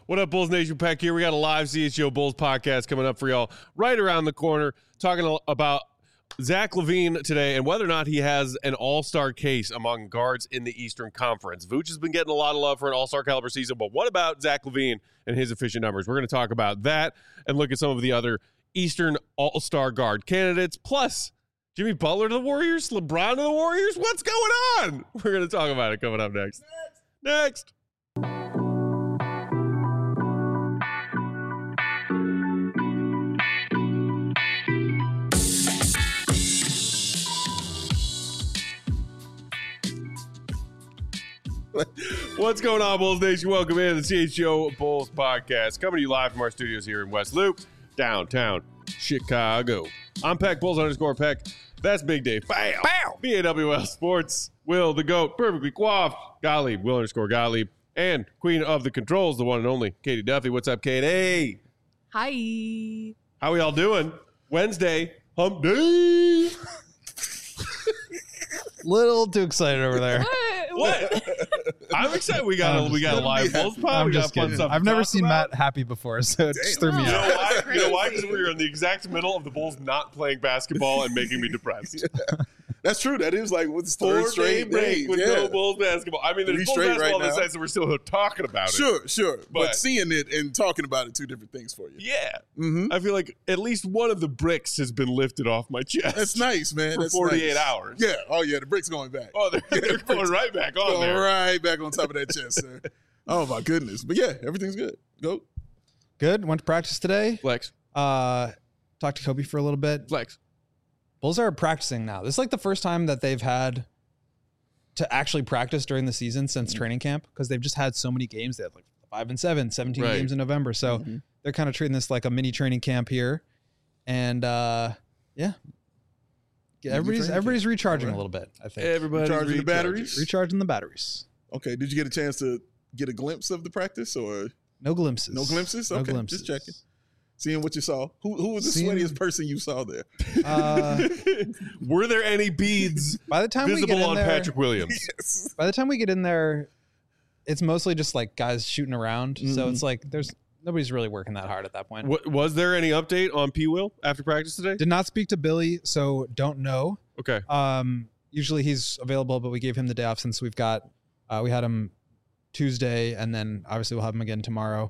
What up, Bulls Nation? Peck here. We got a live CHGO Bulls podcast coming up for y'all right around the corner, talking about Zach LaVine today and whether or not he has an all-star case among guards in the Eastern Conference. Vooch has been getting a lot of love for an all-star caliber season, but what about Zach LaVine and his efficient numbers? We're going to talk about that and look at some of the other Eastern all-star guard candidates, plus Jimmy Butler to the Warriors, LeBron to the Warriors. What's going on? We're going to talk about it coming up next. Next. What's going on, Bulls Nation? Welcome in to the CHGO Bulls podcast, coming to you live from our studios here in West Loop, downtown Chicago. I'm Peck, Bulls_Peck. That's Big Dave. Bam! Bow! BAWL Sports. Will the GOAT, perfectly coiffed. Gottlieb, Will_Gottlieb. And Queen of the Controls, the one and only Katie Duffy. What's up, Katie? Hi. How we all doing? Wednesday, hump day. Little too excited over there. What? I'm excited. We got a live Bulls pod. We got fun stuff. I've never seen Matt happy before, so it just threw me You out. know why? You know why? Because we were in the exact middle of the Bulls not playing basketball and making me depressed. That's true. That is like what's the 4 third straight break with no Bulls basketball. I mean, there's 3 Bulls straight basketball right in the now. sense that we're still talking about it. Sure. But But- seeing it and talking about it, two different things for you. Yeah. Mm-hmm. I feel like at least one of the bricks has been lifted off my chest. That's nice, man. For That's 48 nice. hours. Yeah. Oh, yeah. The brick's going back. Oh, they're going right back on Going there. right back on top of that chest, sir. Oh, my goodness. But, yeah, everything's good. Go. Good. Went to practice today. Flex. Talked to Kobe for a little bit. Flex. Bulls are practicing now. This is like the first time that they've had to actually practice during the season since training camp, because they've just had so many games. They had like 5 and 7, 17 Right. games in November. So they're kind of treating this like a mini training camp here. And yeah. Everybody's recharging a little bit, I think. Everybody's Recharging the batteries? Recharging the batteries. Okay. Did you get a chance to get a glimpse of the practice or No glimpses. no glimpses? No Okay. glimpses. Just checking. Seeing what you saw. Who was the Seeing- sweatiest person you saw there? Were there any beads By the time we get visible in on there, Patrick Williams? Yes. by the time we get in there, it's mostly just like guys shooting around. So it's like nobody's really working that hard at that point. Was there any update on P. Will after practice today? Did not speak to Billy, so don't know. Okay. Usually he's available, but we gave him the day off since we had him Tuesday, and then obviously we'll have him again tomorrow.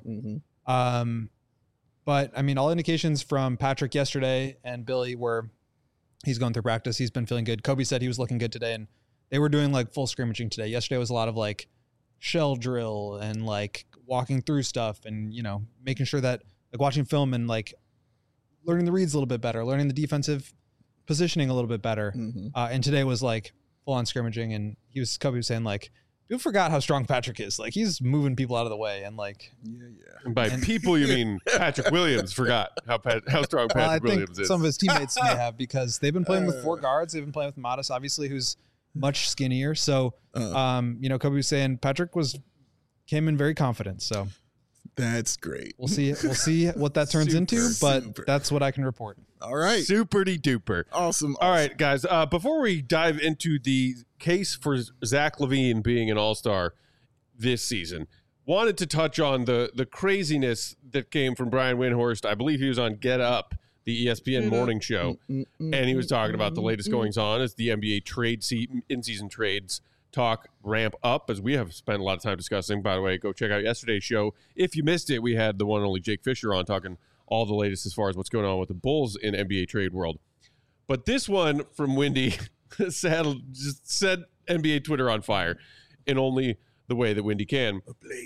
But I mean, all indications from Patrick yesterday and Billy were he's going through practice. He's been feeling good. Kobe said he was looking good today, and they were doing like full scrimmaging today. Yesterday was a lot of like shell drill and like walking through stuff and, you know, making sure that like watching film and like learning the reads a little bit better, learning the defensive positioning a little bit better. And today was like full on scrimmaging, and Kobe was saying like, people forgot how strong Patrick is. Like he's moving people out of the way, and like And by people, you mean Patrick Williams forgot how strong I Patrick think Williams is. some of his teammates may have, because they've been playing with 4 guards. They've been playing with Modest, obviously, who's much skinnier. So, you know, Kobe was saying Patrick came in very confident. So That's great. we'll see what that turns into, but super. that's what I can report. All right. Super-de duper. Awesome. All right, guys. Before we dive into the case for Zach LaVine being an all-star this season, wanted to touch on the craziness that came from Brian Windhorst. I believe he was on Get Up, the ESPN morning show, and he was talking about the latest goings-on as the NBA in-season trades talk ramp up, as we have spent a lot of time discussing. By the way, go check out yesterday's show. If you missed it, we had the one and only Jake Fisher on talking all the latest as far as what's going on with the Bulls in NBA trade world. But this one from Windy just set NBA Twitter on fire in only the way that Windy can.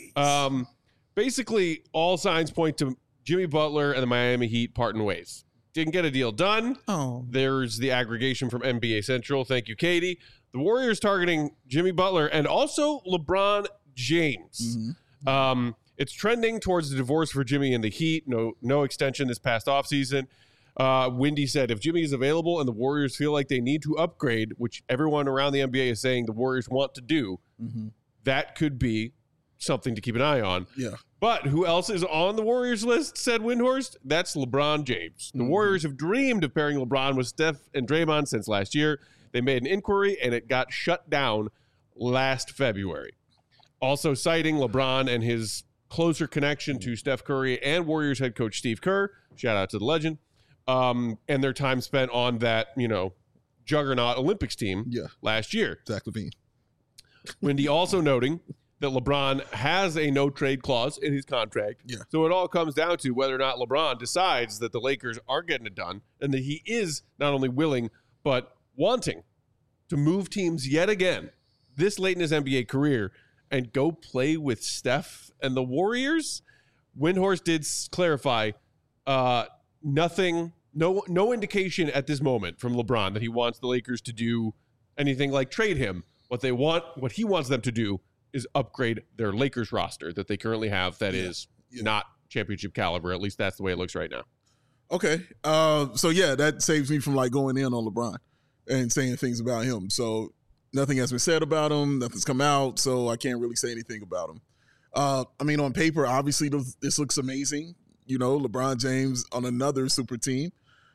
Basically, all signs point to Jimmy Butler and the Miami Heat parting ways. Didn't get a deal done. Oh. There's the aggregation from NBA Central. Thank you, Katie. The Warriors targeting Jimmy Butler and also LeBron James. It's trending towards the divorce for Jimmy and the Heat. No extension this past offseason. Windy said, if Jimmy is available and the Warriors feel like they need to upgrade, which everyone around the NBA is saying the Warriors want to do, that could be something to keep an eye on. Yeah. But who else is on the Warriors list, said Windhorst? That's LeBron James. The Warriors have dreamed of pairing LeBron with Steph and Draymond since last year. They made an inquiry, and it got shut down last February. Also citing LeBron and his closer connection to Steph Curry and Warriors head coach Steve Kerr. Shout out to the legend. And their time spent on that, juggernaut Olympics team last year. Zach LaVine. Wendy also noting that LeBron has a no-trade clause in his contract. Yeah. So it all comes down to whether or not LeBron decides that the Lakers are getting it done and that he is not only willing but wanting to move teams yet again this late in his NBA career and go play with Steph and the Warriors. Windhorst did clarify nothing, no indication at this moment from LeBron that he wants the Lakers to do anything like trade him. What he wants them to do is upgrade their Lakers roster that they currently have that is not championship caliber. At least that's the way it looks right now. Okay. That saves me from going in on LeBron and saying things about him. So nothing has been said about him. Nothing's come out. So I can't really say anything about him. On paper, obviously this looks amazing. LeBron James on another super team.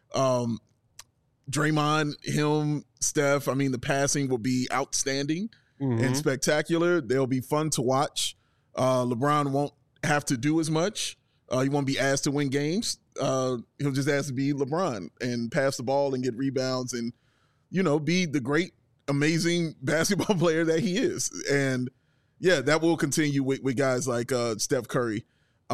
Draymond, him, Steph. The passing will be outstanding and spectacular. They'll be fun to watch. LeBron won't have to do as much. He won't be asked to win games. He'll just ask to be LeBron and pass the ball and get rebounds and, be the great, amazing basketball player that he is. And, that will continue with guys like Steph Curry.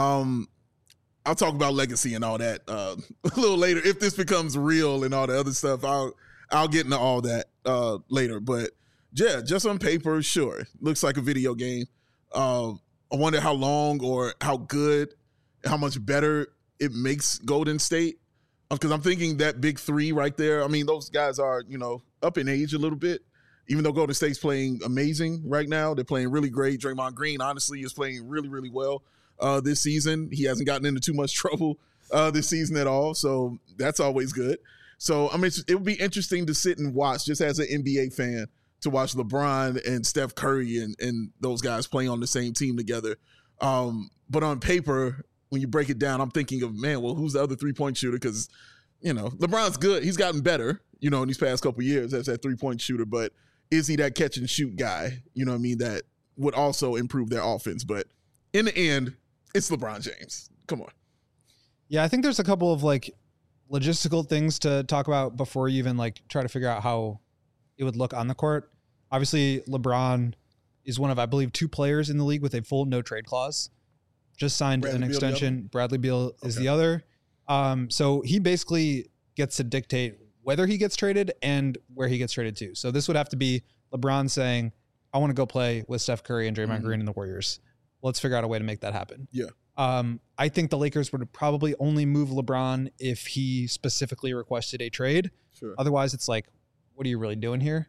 I'll talk about legacy and all that a little later. If this becomes real and all the other stuff, I'll get into all that later. But, just on paper, sure. Looks like a video game. I wonder how long or how good, how much better it makes Golden State. Because I'm thinking that big three right there, those guys are, up in age a little bit. Even though Golden State's playing amazing right now, they're playing really great. Draymond Green, honestly, is playing really, really well this season. He hasn't gotten into too much trouble this season at all, so that's always good. So, it would be interesting to sit and watch, just as an NBA fan, to watch LeBron and Steph Curry and those guys playing on the same team together. But on paper, when you break it down, I'm thinking of, who's the other three-point shooter? Because, LeBron's good. He's gotten better, in these past couple of years as that three-point shooter. But is he that catch-and-shoot guy, that would also improve their offense? But in the end, it's LeBron James. Come on. Yeah, I think there's a couple of logistical things to talk about before you even try to figure out how it would look on the court. Obviously, LeBron is one of, I believe, 2 players in the league with a full no trade clause. Just signed an extension. Bradley Beal is the other. So he basically gets to dictate whether he gets traded and where he gets traded to. So this would have to be LeBron saying, I want to go play with Steph Curry and Draymond Green and the Warriors. Let's figure out a way to make that happen. Yeah. I think the Lakers would probably only move LeBron if he specifically requested a trade. Sure. Otherwise, it's what are you really doing here?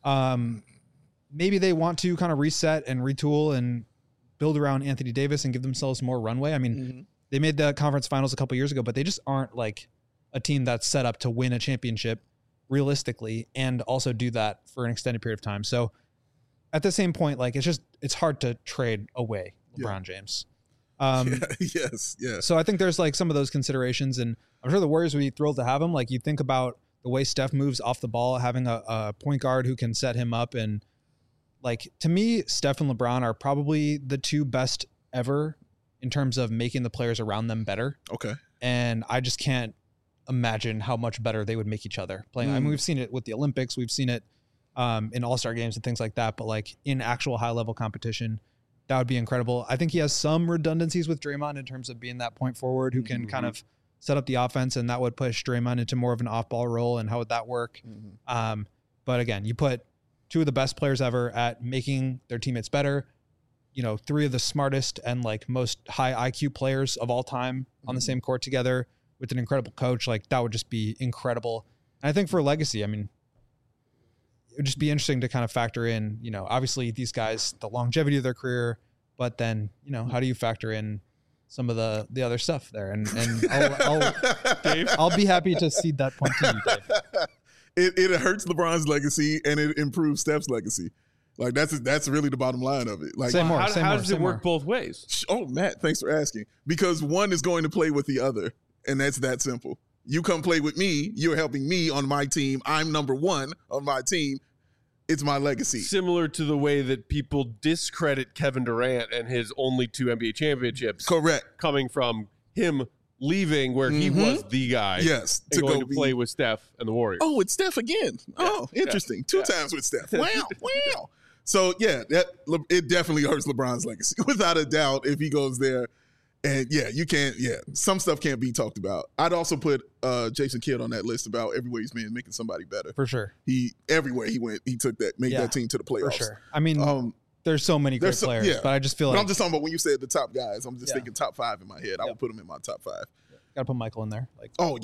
Maybe they want to kind of reset and retool and build around Anthony Davis and give themselves more runway. They made the conference finals a couple years ago, but they just aren't a team that's set up to win a championship realistically and also do that for an extended period of time. So at the same point, it's hard to trade away LeBron James. Yes. So I think there's some of those considerations, and I'm sure the Warriors would be thrilled to have him. You think about the way Steph moves off the ball, having a point guard who can set him up. And to me, Steph and LeBron are probably the 2 best ever in terms of making the players around them better. Okay. And I just can't imagine how much better they would make each other playing. We've seen it with the Olympics. We've seen it in all-star games and things like that. But in actual high-level competition, that would be incredible. I think he has some redundancies with Draymond in terms of being that point forward who can kind of set up the offense, and that would push Draymond into more of an off-ball role. And how would that work? But again, you put 2 of the best players ever at making their teammates better, 3 of the smartest and most high IQ players of all time on the same court together with an incredible coach. That would just be incredible. And I think for legacy, it would just be interesting to kind of factor in, obviously these guys, the longevity of their career, but then, how do you factor in some of the other stuff there? And I'll be happy to cede that point to you, Dave. It hurts LeBron's legacy and it improves Steph's legacy. That's really the bottom line of it. How does it work both ways? Oh, Matt, thanks for asking. Because one is going to play with the other, and that's that simple. You come play with me, you're helping me on my team. I'm number 1 on my team. it's my legacy. Similar to the way that people discredit Kevin Durant and his only 2 NBA championships. Correct. Coming from him leaving where he was the guy. Yes. And going to play with Steph and the Warriors. Oh, it's Steph again. Oh, interesting. 2 times with Steph. Wow. So, yeah, it definitely hurts LeBron's legacy, without a doubt, if he goes there. And, some stuff can't be talked about. I'd also put Jason Kidd on that list about everywhere he's been making somebody better. For sure. Everywhere he went, he made that team to the playoffs. For sure. I mean, there's so many great players, but I just feel like I'm just talking about when you said the top guys, I'm just thinking top 5 in my head. I would put him in my top 5. Got to put Michael in there.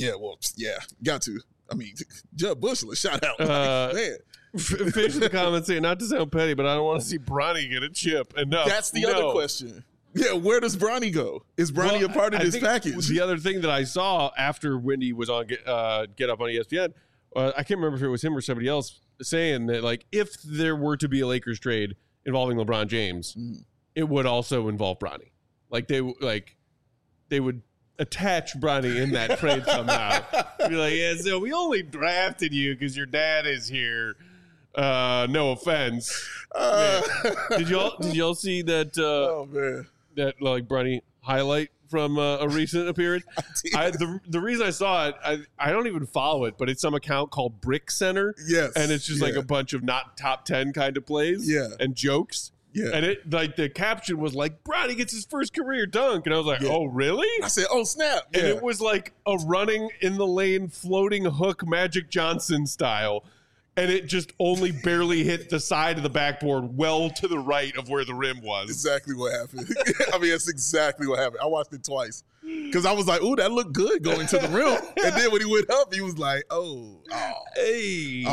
Got to. I mean, Jud Bushler, shout out. Man. Finish the comment saying, not to sound petty, but I don't want to see Bronny get a chip. And that's the other question. Yeah, where does Bronny go? Is Bronny a part of this package? The other thing that I saw after Wendy was on Get Up on ESPN, I can't remember if it was him or somebody else saying that, like, if there were to be a Lakers trade involving LeBron James, it would also involve Bronny. Like, they would attach Bronny in that trade somehow. Be like, yeah, so we only drafted you because your dad is here. No offense. Did y'all see that? Oh man. That like Bronny highlight from a recent appearance. The reason I saw it, I don't even follow it, but it's some account called Brick Center. Yes, and it's just like a bunch of not top 10 kind of plays. And jokes. Yeah, and it like the caption was like Bronny gets his first career dunk, and I was like, oh really? I said, oh snap! And it was like a running in the lane, floating hook, Magic Johnson style. And it just only barely hit the side of the backboard, well to the right of where the rim was. Exactly what happened. I mean, that's exactly what happened. I watched it twice because I was like, "Ooh, that looked good going to the rim." And then when he went up, he was like, hey."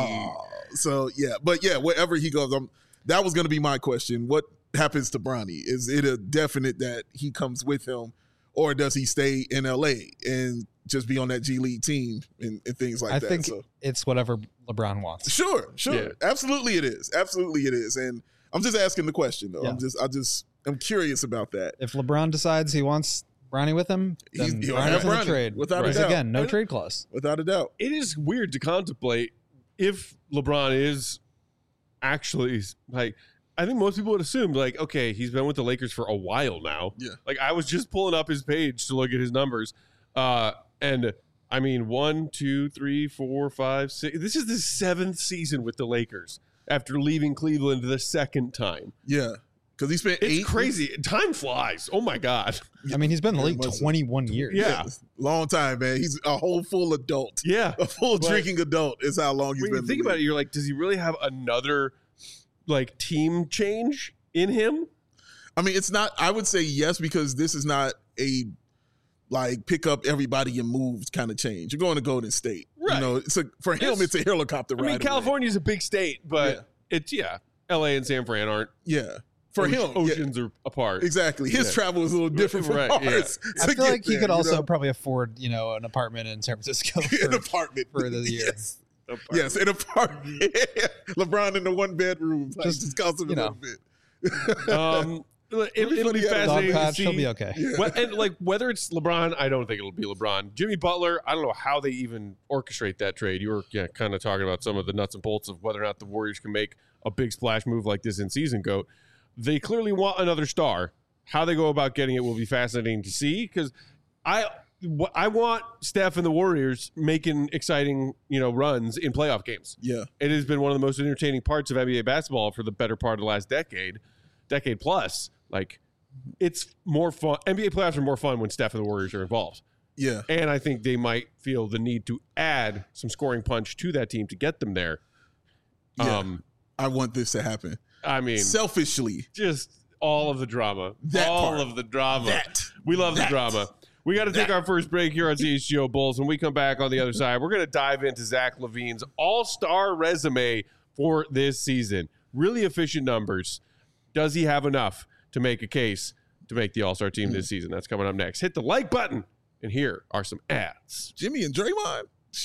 So wherever he goes, that was going to be my question. What happens to Bronny? Is it a definite that he comes with him, or does he stay in LA and just be on that G League team and things like that? I think it's whatever LeBron wants. Sure. Yeah. Absolutely it is. And I'm just asking the question though. Yeah. I'm curious about that. If LeBron decides he wants Bronny with him, then he'll have Bronny's in the trade. Without a doubt. Again, no trade clause. Without a doubt. It is weird to contemplate if LeBron is actually like, I think most people would assume like, okay, he's been with the Lakers for a while now. Yeah. Like I was just pulling up his page to look at his numbers. And I mean, 1, 2, 3, 4, 5, 6. This is the 7th season with the Lakers after leaving Cleveland the 2nd time. Yeah. Because he spent 8. It's crazy. Time flies. Oh, my God. I mean, he's been in the league 21 years. Yeah. Long time, man. He's a whole full adult. Yeah. A full drinking adult is how long he's been. When you think about it, you're like, does he really have another, like, team change in him? I mean, it's not. I would say yes, because this is not a like pick up everybody and move kind of change. You're going to Golden State. Right. You know, for him, it's a helicopter ride. I mean, California's a big state, but it's, LA and San Fran aren't. Yeah. For him, oceans are apart. Exactly. His travel is a little different from ours. I feel like he could also probably afford, an apartment in San Francisco an apartment for the year. Yes, an apartment. LeBron in the 1-bedroom. Just cost him a little bit. It'll be fascinating to see. He'll be okay. Yeah. And like whether it's LeBron, I don't think it'll be LeBron. Jimmy Butler, I don't know how they even orchestrate that trade. You were kind of talking about some of the nuts and bolts of whether or not the Warriors can make a big splash move like this in season, Goat. They clearly want another star. How they go about getting it will be fascinating to see, because I want Steph and the Warriors making exciting, runs in playoff games. Yeah. It has been one of the most entertaining parts of NBA basketball for the better part of the last decade plus. Like, it's more fun. NBA playoffs are more fun when Steph and the Warriors are involved. Yeah. And I think they might feel the need to add some scoring punch to that team to get them there. Yeah. I want this to happen. I mean, selfishly. Just all of the drama. Of the drama. We love the drama. We got to take our first break here on CHGO Bulls. When we come back on the other side, we're going to dive into Zach LaVine's all-star resume for this season. Really efficient numbers. Does he have enough to make a case to make the all-star team this season? That's coming up next. Hit the like button, and here are some ads. Jimmy and Draymond.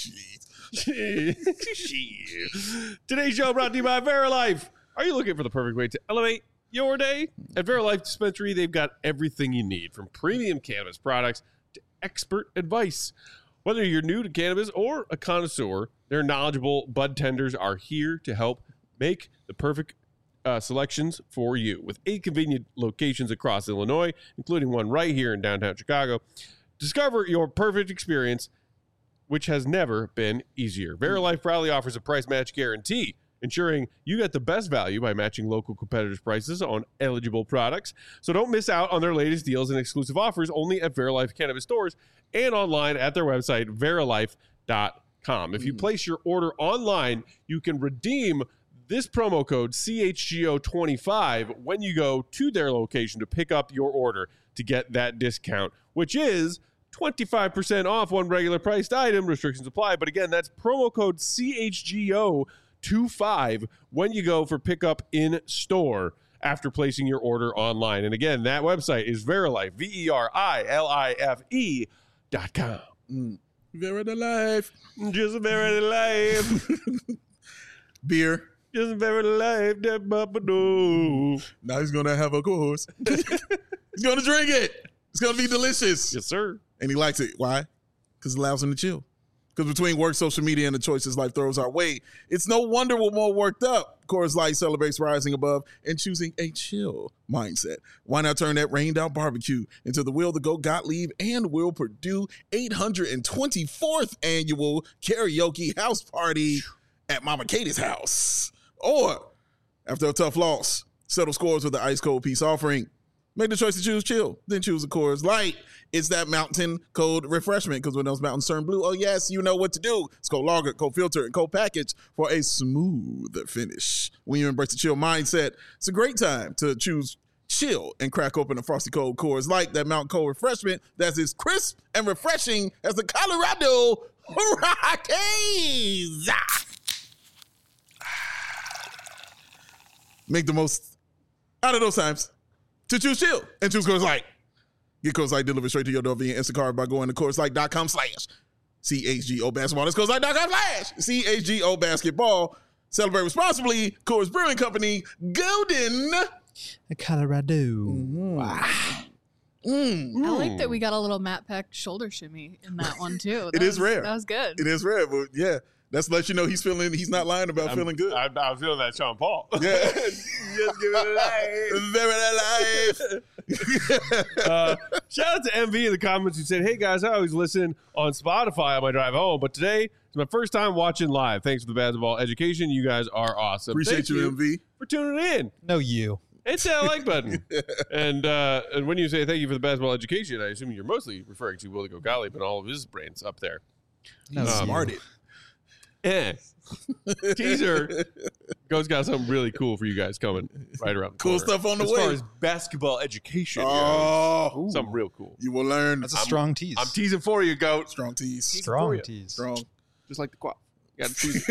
Today's show brought to you by Verilife. Are you looking for the perfect way to elevate your day? At Verilife Dispensary, they've got everything you need, from premium cannabis products to expert advice. Whether you're new to cannabis or a connoisseur, their knowledgeable bud tenders are here to help make the perfect selections for you. With 8 convenient locations across Illinois, including one right here in downtown Chicago, discover your perfect experience, which has never been easier. Verilife proudly offers a price match guarantee, ensuring you get the best value by matching local competitors' prices on eligible products. So don't miss out on their latest deals and exclusive offers only at Verilife Cannabis stores and online at their website, verilife.com. If you place your order online, you can redeem this promo code CHGO25 when you go to their location to pick up your order to get that discount, which is 25% off one regular priced item. Restrictions apply. But again, that's promo code CHGO25 when you go for pickup in store after placing your order online. And again, that website is Verilife, VERILIFE.com. Verilife. Just Verilife. Beer. Just Verilife. That Bubba. Now he's going to have a course. He's going to drink it. It's going to be delicious. Yes, sir. And he likes it. Why? Because it allows him to chill. Because between work, social media, and the choices life throws our way, it's no wonder we're more worked up. Coors Light celebrates rising above and choosing a chill mindset. Why not turn that rained out barbecue into the Will to Go Gottlieb and Will Purdue 824th annual karaoke house party at Mama Katie's house? Or, after a tough loss, settle scores with the ice cold peace offering. Make the choice to choose chill, then choose a Coors Light. It's that mountain cold refreshment, because when those mountains turn blue, oh yes, you know what to do. It's cold lager, cold filter, and cold package for a smooth finish. When you embrace the chill mindset, it's a great time to choose chill and crack open a frosty cold Coors Light, that mountain cold refreshment that's as crisp and refreshing as the Colorado Rockies. Make the most out of those times to choose chill and choose Coors Light. Get Coors Light delivered straight to your door via Instacart by going to CoorsLight.com/CHGO basketball. That's CoorsLight.com/CHGO basketball. Celebrate responsibly. Coors Brewing Company, Golden, Colorado. I like that we got a little Matt Peck shoulder shimmy in that one too. It is rare. That was good. It is rare, but yeah. That's to let you know he's not lying about feeling good. I'm feeling that Sean Paul. Yeah. Just give it a life. Shout out to MV in the comments who said, hey guys, I always listen on Spotify on my drive home, but today is my first time watching live. Thanks for the basketball education. You guys are awesome. Appreciate you, MV. For tuning in. No, you. Hit that like button. And when you say thank you for the basketball education, I assume you're mostly referring to Will to Go Gottlieb and all of his brains up there. No, Smarted. Teaser. Go's got something really cool for you guys coming right around the Cool corner. stuff on the as way. As far as basketball education goes. something real cool. You will learn. That's a strong tease. I'm teasing for you, Goat. Strong tease. Strong tease. Strong. Just like the quaff. You got to tease.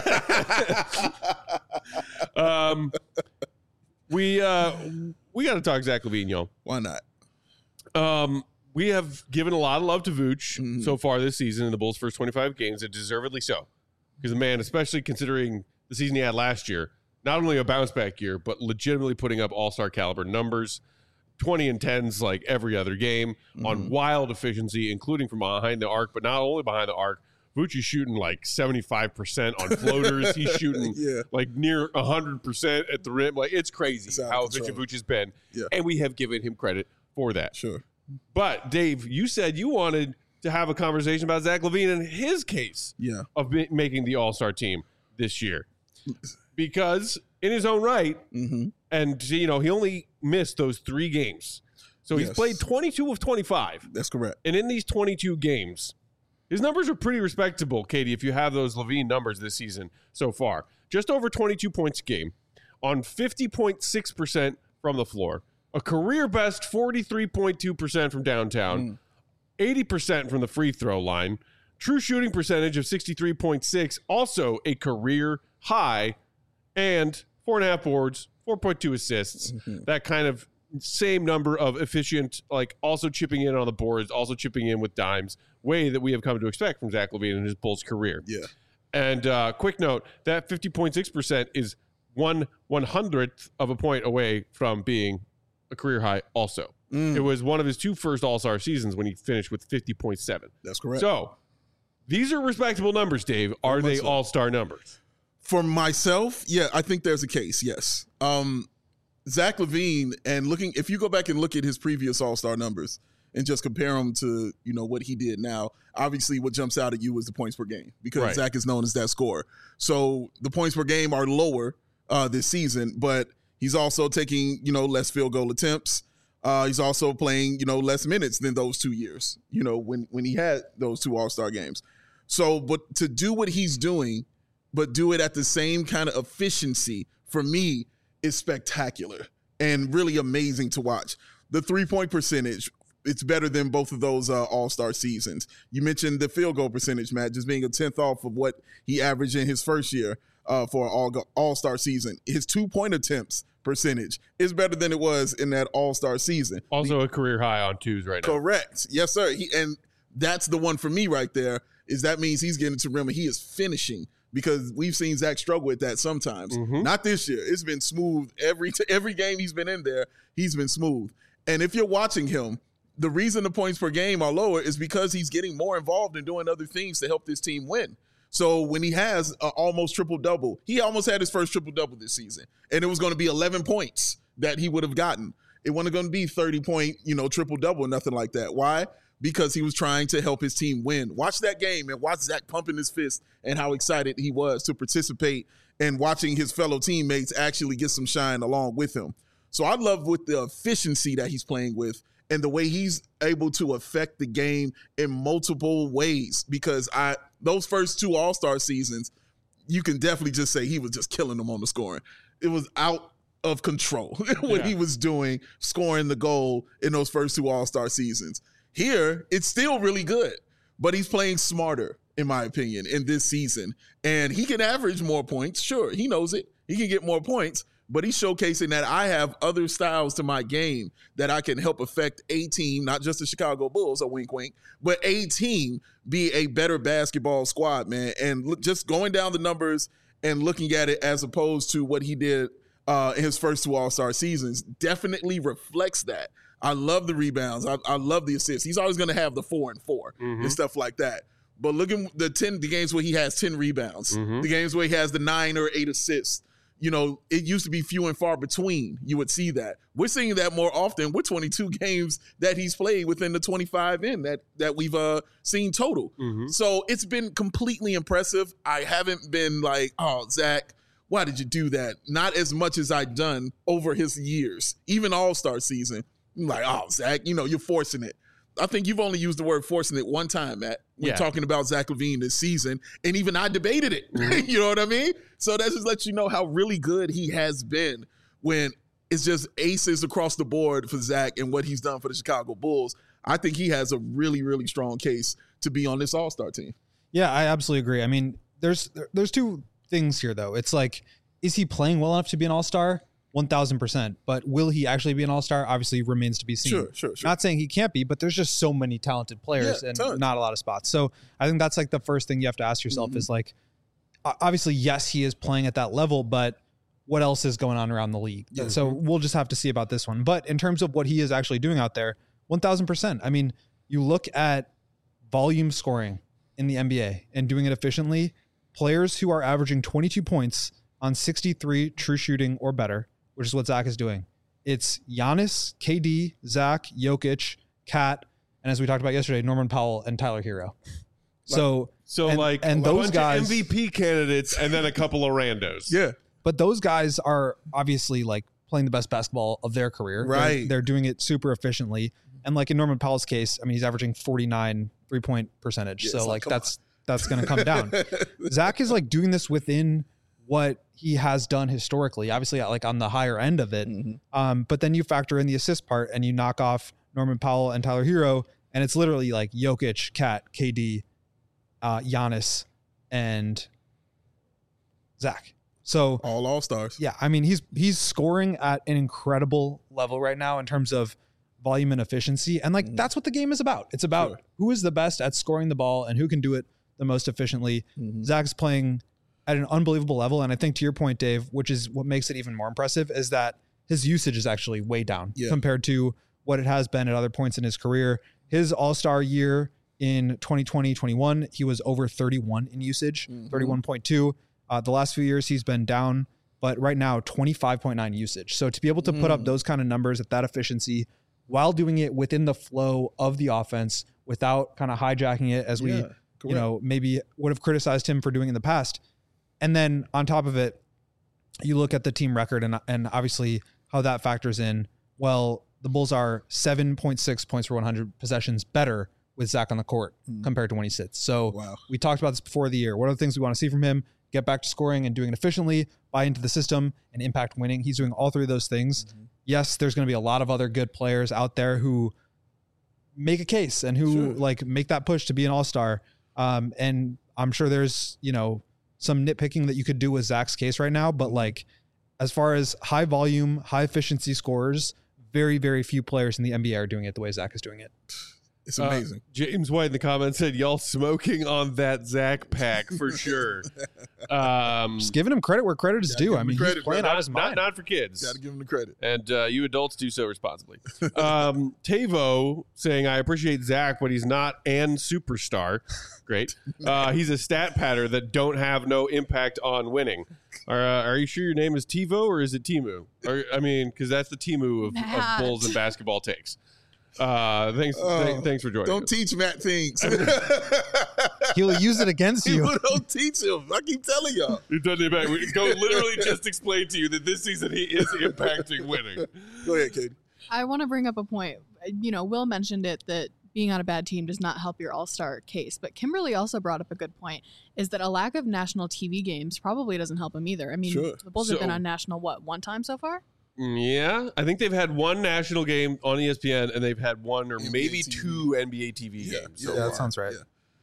We got to talk Zach LaVine, y'all. Why not? We have given a lot of love to Vooch so far this season in the Bulls' first 25 games, and deservedly so. Because the man, especially considering the season he had last year, not only a bounce back year, but legitimately putting up all-star caliber numbers, 20 and 10s like every other game on wild efficiency, including from behind the arc, but not only behind the arc. Vooch is shooting like 75% on floaters. He's shooting like near 100% at the rim. Like, it's crazy how efficient Vooch has been. Yeah. And we have given him credit for that. Sure. But, Dave, you said you wanted to have a conversation about Zach LaVine and his case of making the All-Star team this year. Because in his own right, and, you know, he only missed those 3 games. So he's played 22 of 25. That's correct. And in these 22 games, his numbers are pretty respectable, Katie, if you have those LaVine numbers this season so far. Just over 22 points a game on 50.6% from the floor, a career best 43.2% from downtown, 80% from the free throw line, true shooting percentage of 63.6, also a career high, and 4.5 boards, 4.2 assists. That kind of same number of efficient, like also chipping in on the boards, also chipping in with dimes, way that we have come to expect from Zach LaVine in his Bulls career. Yeah. And quick note, that 50.6% is 1/100th of a point away from being a career high also. It was one of his 2 first All-Star seasons when he finished with 50.7. That's correct. So these are respectable numbers, Dave. Are they All-Star numbers? For myself, yeah, I think there's a case, yes. Zach LaVine, and if you go back and look at his previous All-Star numbers and just compare them to, what he did now, obviously what jumps out at you is the points per game because Right. Zach is known as that scorer. So the points per game are lower this season, but he's also taking, less field goal attempts. He's also playing, less minutes than those 2 years, when he had those 2 All-Star games. So, but to do what he's doing, but do it at the same kind of efficiency, for me, is spectacular and really amazing to watch. The 3-point percentage, it's better than both of those All-Star seasons. You mentioned the field goal percentage, Matt, just being a 10th off of what he averaged in his first year for an All-Star season. His 2-point attempts percentage is better than it was in that All-Star season. Also a career high on twos right now. Correct. Yes, sir. And that's the one for me right there, is that means he's getting to rim and he is finishing, because we've seen Zach struggle with that sometimes. Mhm. Not this year. It's been smooth. Every game he's been in there, he's been smooth. And if you're watching him, the reason the points per game are lower is because he's getting more involved in doing other things to help this team win. So when he has an almost triple-double, he almost had his first triple-double this season, and it was going to be 11 points that he would have gotten. It wasn't going to be 30-point, triple-double, nothing like that. Why? Because he was trying to help his team win. Watch that game and watch Zach pumping his fist and how excited he was to participate and watching his fellow teammates actually get some shine along with him. So I love with the efficiency that he's playing with and the way he's able to affect the game in multiple ways, because those first 2 All-Star seasons, you can definitely just say he was just killing them on the scoring. It was out of control what he was doing, scoring the goal in those first 2 All-Star seasons. Here, it's still really good, but he's playing smarter, in my opinion, in this season. And he can average more points. Sure, he knows it. He can get more points, but he's showcasing that I have other styles to my game that I can help affect a team, not just the Chicago Bulls, a wink, wink, but a team be a better basketball squad, man. And just going down the numbers and looking at it as opposed to what he did in his first 2 All-Star seasons definitely reflects that. I love the rebounds. I love the assists. He's always going to have the 4 and 4 and stuff like that. But look at the games where he has 10 rebounds, the games where he has the 9 or 8 assists. It used to be few and far between. You would see that. We're seeing that more often. We're 22 games that he's played within the 25 in that we've seen total. So it's been completely impressive. I haven't been like, oh, Zach, why did you do that? Not as much as I've done over his years, even All-Star season. I'm like, oh, Zach, you're forcing it. I think you've only used the word forcing it one time, Matt, when talking about Zach LaVine this season, and even I debated it. You know what I mean? So that just lets you know how really good he has been when it's just aces across the board for Zach and what he's done for the Chicago Bulls. I think he has a really, really strong case to be on this All-Star team. Yeah, I absolutely agree. I mean, there's 2 things here, though. It's like, is he playing well enough to be an All-Star? 1,000%. But will he actually be an All-Star? Obviously remains to be seen. Sure. Not saying he can't be, but there's just so many talented players and not a lot of spots. So I think that's like the first thing you have to ask yourself is like, obviously, yes, he is playing at that level, but what else is going on around the league? So we'll just have to see about this one. But in terms of what he is actually doing out there, 1,000%. I mean, you look at volume scoring in the NBA and doing it efficiently, players who are averaging 22 points on 63 true shooting or better, which is what Zach is doing. It's Giannis, KD, Zach, Jokic, Kat, and as we talked about yesterday, Norman Powell and Tyler Hero. So and those bunch guys, of MVP candidates, and then a couple of randos. Yeah. but those guys are obviously like playing the best basketball of their career. Right. They're doing it super efficiently. And like in Norman Powell's case, I mean, he's averaging 49 3-point percentage. So like that's going to come down. Zach is like doing this within what he has done historically, obviously like on the higher end of it. Mm-hmm. But then you factor in the assist part and you knock off Norman Powell and Tyler Hero. And it's literally like Jokic, Kat, KD, Giannis, and Zach. So all stars. Yeah. I mean, he's scoring at an incredible level right now in terms of volume and efficiency. And like, that's what the game is about. It's about who is the best at scoring the ball and who can do it the most efficiently. Zach's playing at an unbelievable level. And I think to your point, Dave, which is what makes it even more impressive, is that his usage is actually way down compared to what it has been at other points in his career. His all-star year in 2020-21, he was over 31 in usage, 31.2. The last few years he's been down, but right now 25.9 usage. So to be able to put up those kind of numbers at that efficiency while doing it within the flow of the offense without kind of hijacking it as we, maybe would have criticized him for doing in the past. And then on top of it, you look at the team record and obviously how that factors in. Well, the Bulls are 7.6 points per 100 possessions better with Zach on the court compared to when he sits. So we talked about this before the year. What are the things we want to see from him? Get back to scoring and doing it efficiently, buy into the system, and impact winning. He's doing all three of those things. Yes, there's going to be a lot of other good players out there who make a case and who make that push to be an all-star. And I'm sure there's, some nitpicking that you could do with Zach's case right now, but as far as high volume, high efficiency scorers, very, very few players in the NBA are doing it the way Zach is doing it. It's amazing. James White in the comments said, y'all smoking on that Zach pack for sure. Just giving him credit where credit is due. I mean, he's playing out his mind. Not for kids. Got to give him the credit. And you adults do so responsibly. Tavo saying, I appreciate Zach, but he's not an superstar. Great. He's a stat patter that don't have no impact on winning. Are you sure your name is Tivo or is it Timu? Because that's the Timu of Bulls and basketball takes. Thanks for joining. Don't teach Matt things. He'll use it against you. Don't teach him. I keep telling y'all. It doesn't impact. We go literally just explain to you that this season he is impacting winning. Go ahead, Katie. I want to bring up a point. Will mentioned it that being on a bad team does not help your all-star case. But Kimberly also brought up a good point, is that a lack of national TV games probably doesn't help him either. I mean, the Bulls have been on national, one time so far? Yeah, I think they've had one national game on ESPN, and they've had one or maybe TV. two NBA TV games. So that sounds right.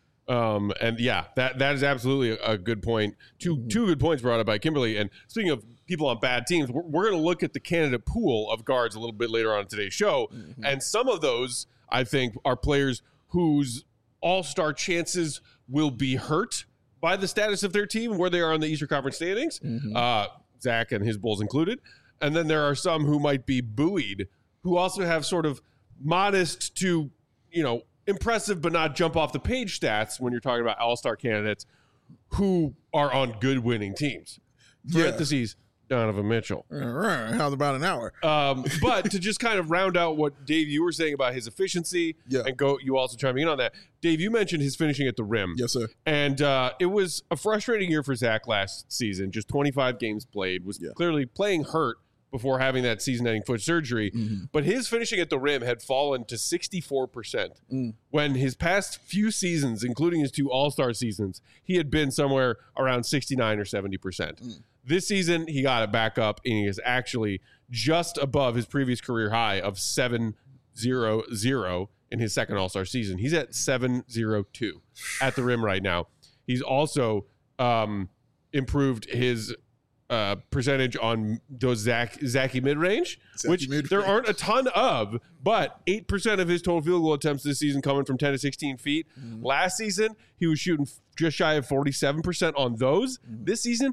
Yeah. That is absolutely a good point. Two good points brought up by Kimberly. And speaking of people on bad teams, we're going to look at the candidate pool of guards a little bit later on in today's show. And some of those, I think, are players whose all-star chances will be hurt by the status of their team, where they are on the Eastern Conference standings, Zach and his Bulls included. And then there are some who might be buoyed, who also have sort of modest to, impressive but not jump off the page stats when you're talking about all-star candidates who are on good winning teams. Parentheses, Donovan Mitchell. How's about an hour? But to just kind of round out what, Dave, you were saying about his efficiency, and you also chiming in on that. Dave, you mentioned his finishing at the rim. Yes, sir. And it was a frustrating year for Zach last season. Just 25 games played, was clearly playing hurt before having that season-ending foot surgery. But his finishing at the rim had fallen to 64%. When his past few seasons, including his two all-star seasons, he had been somewhere around 69 or 70%. This season, he got it back up, and he is actually just above his previous career high of 700 in his second all-star season. He's at 702 at the rim right now. He's also improved his percentage on those Zachy mid-range, which there aren't a ton of, but 8% of his total field goal attempts this season coming from 10 to 16 feet. Last season, he was shooting just shy of 47% on those. This season,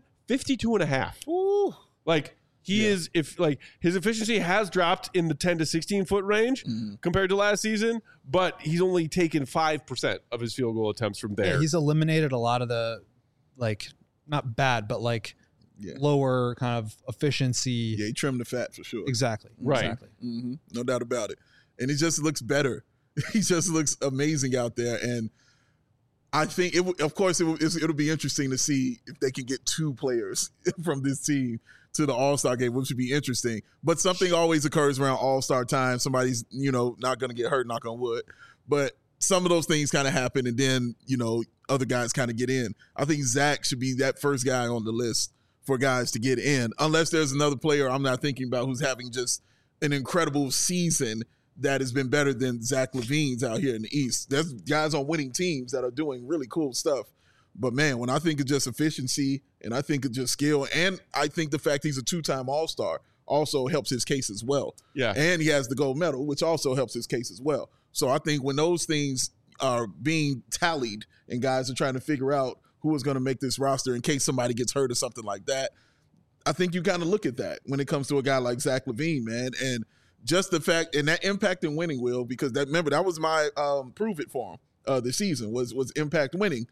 52.5. His efficiency has dropped in the 10 to 16 foot range compared to last season, but he's only taken 5% of his field goal attempts from there. Yeah, he's eliminated a lot of the not bad, but lower kind of efficiency. Yeah, he trimmed the fat for sure. Exactly. Right. Exactly. No doubt about it. And he just looks better. He just looks amazing out there. And I think, it'll be interesting to see if they can get two players from this team to the All-Star game, which would be interesting. But something always occurs around All-Star time. Somebody's, not going to get hurt, knock on wood. But some of those things kind of happen, and then, other guys kind of get in. I think Zach should be that first guy on the list for guys to get in, unless there's another player I'm not thinking about who's having just an incredible season that has been better than Zach LaVine's out here in the East. There's guys on winning teams that are doing really cool stuff. But, man, when I think of just efficiency and I think of just skill, and I think the fact he's a two-time All-Star also helps his case as well. Yeah. And he has the gold medal, which also helps his case as well. So I think when those things are being tallied and guys are trying to figure out who is going to make this roster in case somebody gets hurt or something like that, I think you kind of look at that when it comes to a guy like Zach LaVine, man. And just the fact, and that impact in winning, Will, because that was my prove it for him this season was impact winning.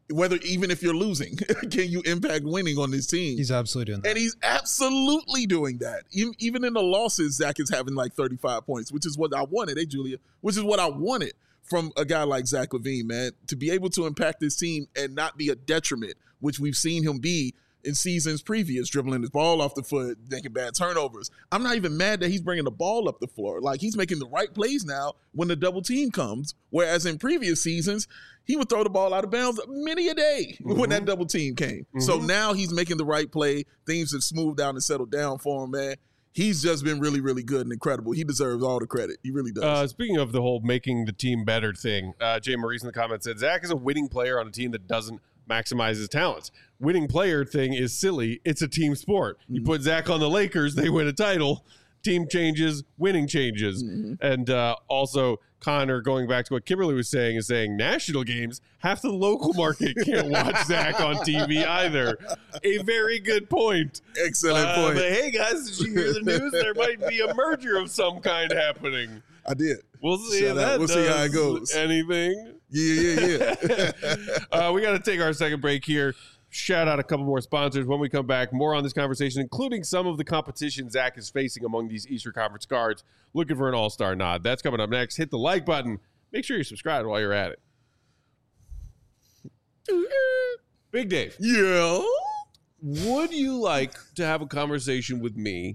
even if you're losing, can you impact winning on this team? He's absolutely doing that. And he's absolutely doing that. Even in the losses, Zach is having like 35 points, which is what I wanted. Hey, Julia, which is what I wanted from a guy like Zach LaVine, man, to be able to impact this team and not be a detriment, which we've seen him be in seasons previous, dribbling his ball off the foot, making bad turnovers. I'm not even mad that he's bringing the ball up the floor. Like, he's making the right plays now when the double team comes, whereas in previous seasons, he would throw the ball out of bounds many a day when that double team came. So now he's making the right play. Things have smoothed out and settled down for him, man. He's just been really, really good and incredible. He deserves all the credit. He really does. Speaking of the whole making the team better thing, Jay Maurice in the comments said, Zach is a winning player on a team that doesn't maximize his talents. Winning player thing is silly. It's a team sport. You put Zach on the Lakers, they win a title. Team changes, winning changes. And also, Connor, going back to what Kimberly was saying, is saying national games, half the local market can't watch Zach on TV either. A very good point. Excellent point. But hey, guys, did you hear the news? There might be a merger of some kind happening. I did. We'll see if that We'll see how it goes. Anything? Yeah. We got to take our second break here. Shout out a couple more sponsors. When we come back, more on this conversation, including some of the competition Zach is facing among these Eastern Conference guards. Looking for an all-star nod. That's coming up next. Hit the like button. Make sure you're subscribed while you're at it. Big Dave. Yeah. Would you like to have a conversation with me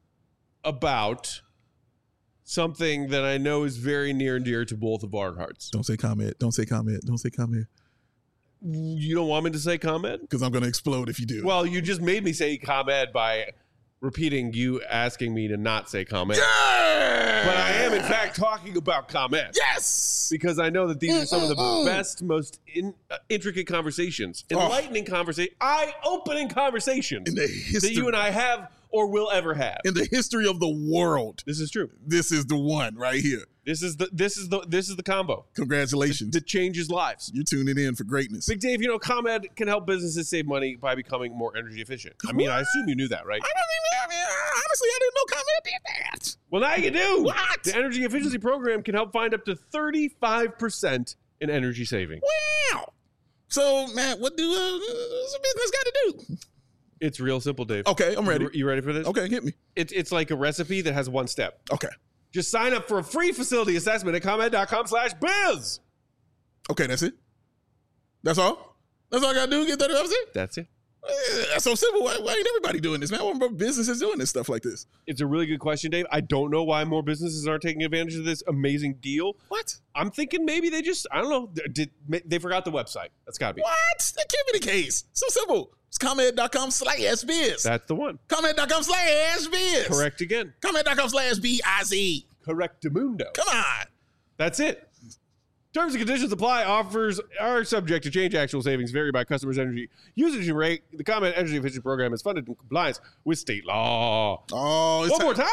about something that I know is very near and dear to both of our hearts? Don't say comment. Don't say comment. Don't say comment. You don't want me to say ComEd? Because I'm going to explode if you do. Well, you just made me say ComEd by repeating you asking me to not say ComEd. Yeah! But I am, in fact, talking about ComEd. Yes! Because I know that these are some of the best, most intricate conversations, enlightening conversations, eye-opening conversations in the history that you and I have or will ever have. In the history of the world. This is true. This is the one right here. This is the combo. Congratulations. That changes lives. You're tuning in for greatness. Big Dave, ComEd can help businesses save money by becoming more energy efficient. I mean, I assume you knew that, right? Honestly, I didn't know ComEd did that. Well, now you do. What? The energy efficiency program can help find up to 35% in energy saving. Wow. So, Matt, what do a business got to do? It's real simple, Dave. Okay, I'm ready. You ready for this? Okay, hit me. It's like a recipe that has one step. Okay. Just sign up for a free facility assessment at ComEd.com/biz. Okay, that's it? That's all? That's all I got to do to get 35%? That's it. That's so simple. Why ain't everybody doing this, man? Why more businesses doing this stuff like this? It's a really good question, Dave. I don't know why more businesses aren't taking advantage of this amazing deal. What? I'm thinking maybe they just, I don't know, they forgot the website. That's got to be. What? That can't be the case. So simple. It's ComEd.com/biz. That's the one. ComEd.com/biz. Correct again. ComEd.com/BIZ. Correctamundo. Come on. That's it. Terms and conditions apply. Offers are subject to change. Actual savings vary by customer's energy usage and rate. The ComEd Energy Efficiency Program is funded in compliance with state law. Oh, One more time.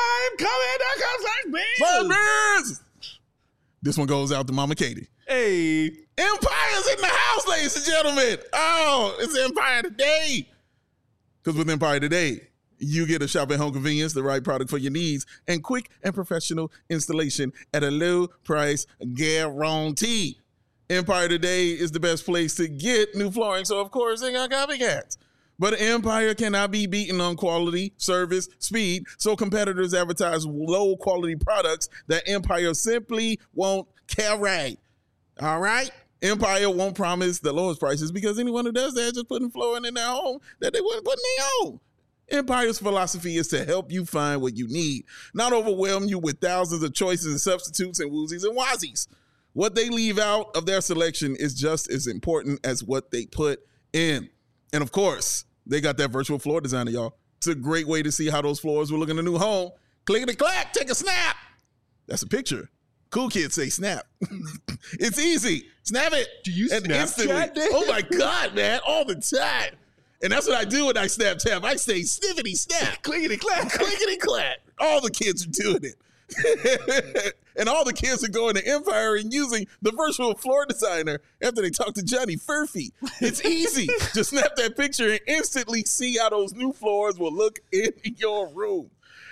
ComEd.com/biz. This one goes out to Mama Katie. Hey. Empire's in the house, ladies and gentlemen. Oh, it's Empire Today. Because with Empire Today, you get a shop at home convenience, the right product for your needs, and quick and professional installation at a low price guarantee. Empire Today is the best place to get new flooring, so of course they got copycats. But Empire cannot be beaten on quality, service, speed, so competitors advertise low quality products that Empire simply won't carry. All right? Empire won't promise the lowest prices because anyone who does that is just putting flooring in their home that they wouldn't put in their own. Empire's philosophy is to help you find what you need, not overwhelm you with thousands of choices and substitutes and woozies and wazies. What they leave out of their selection is just as important as what they put in. And of course, they got that virtual floor designer, y'all. It's a great way to see how those floors will look in a new home. Clickety-clack, take a snap. That's a picture. Cool kids say snap. It's easy. Snap it. Do you Snapchat? Oh my God, man, all the time. And that's what I do when I Snapchat. I say sniffity snap. Clickety-clack. Clickety-clack. All the kids are doing it. And all the kids are going to Empire and using the virtual floor designer after they talk to Johnny Furphy. It's easy. Just snap that picture and instantly see how those new floors will look in your room.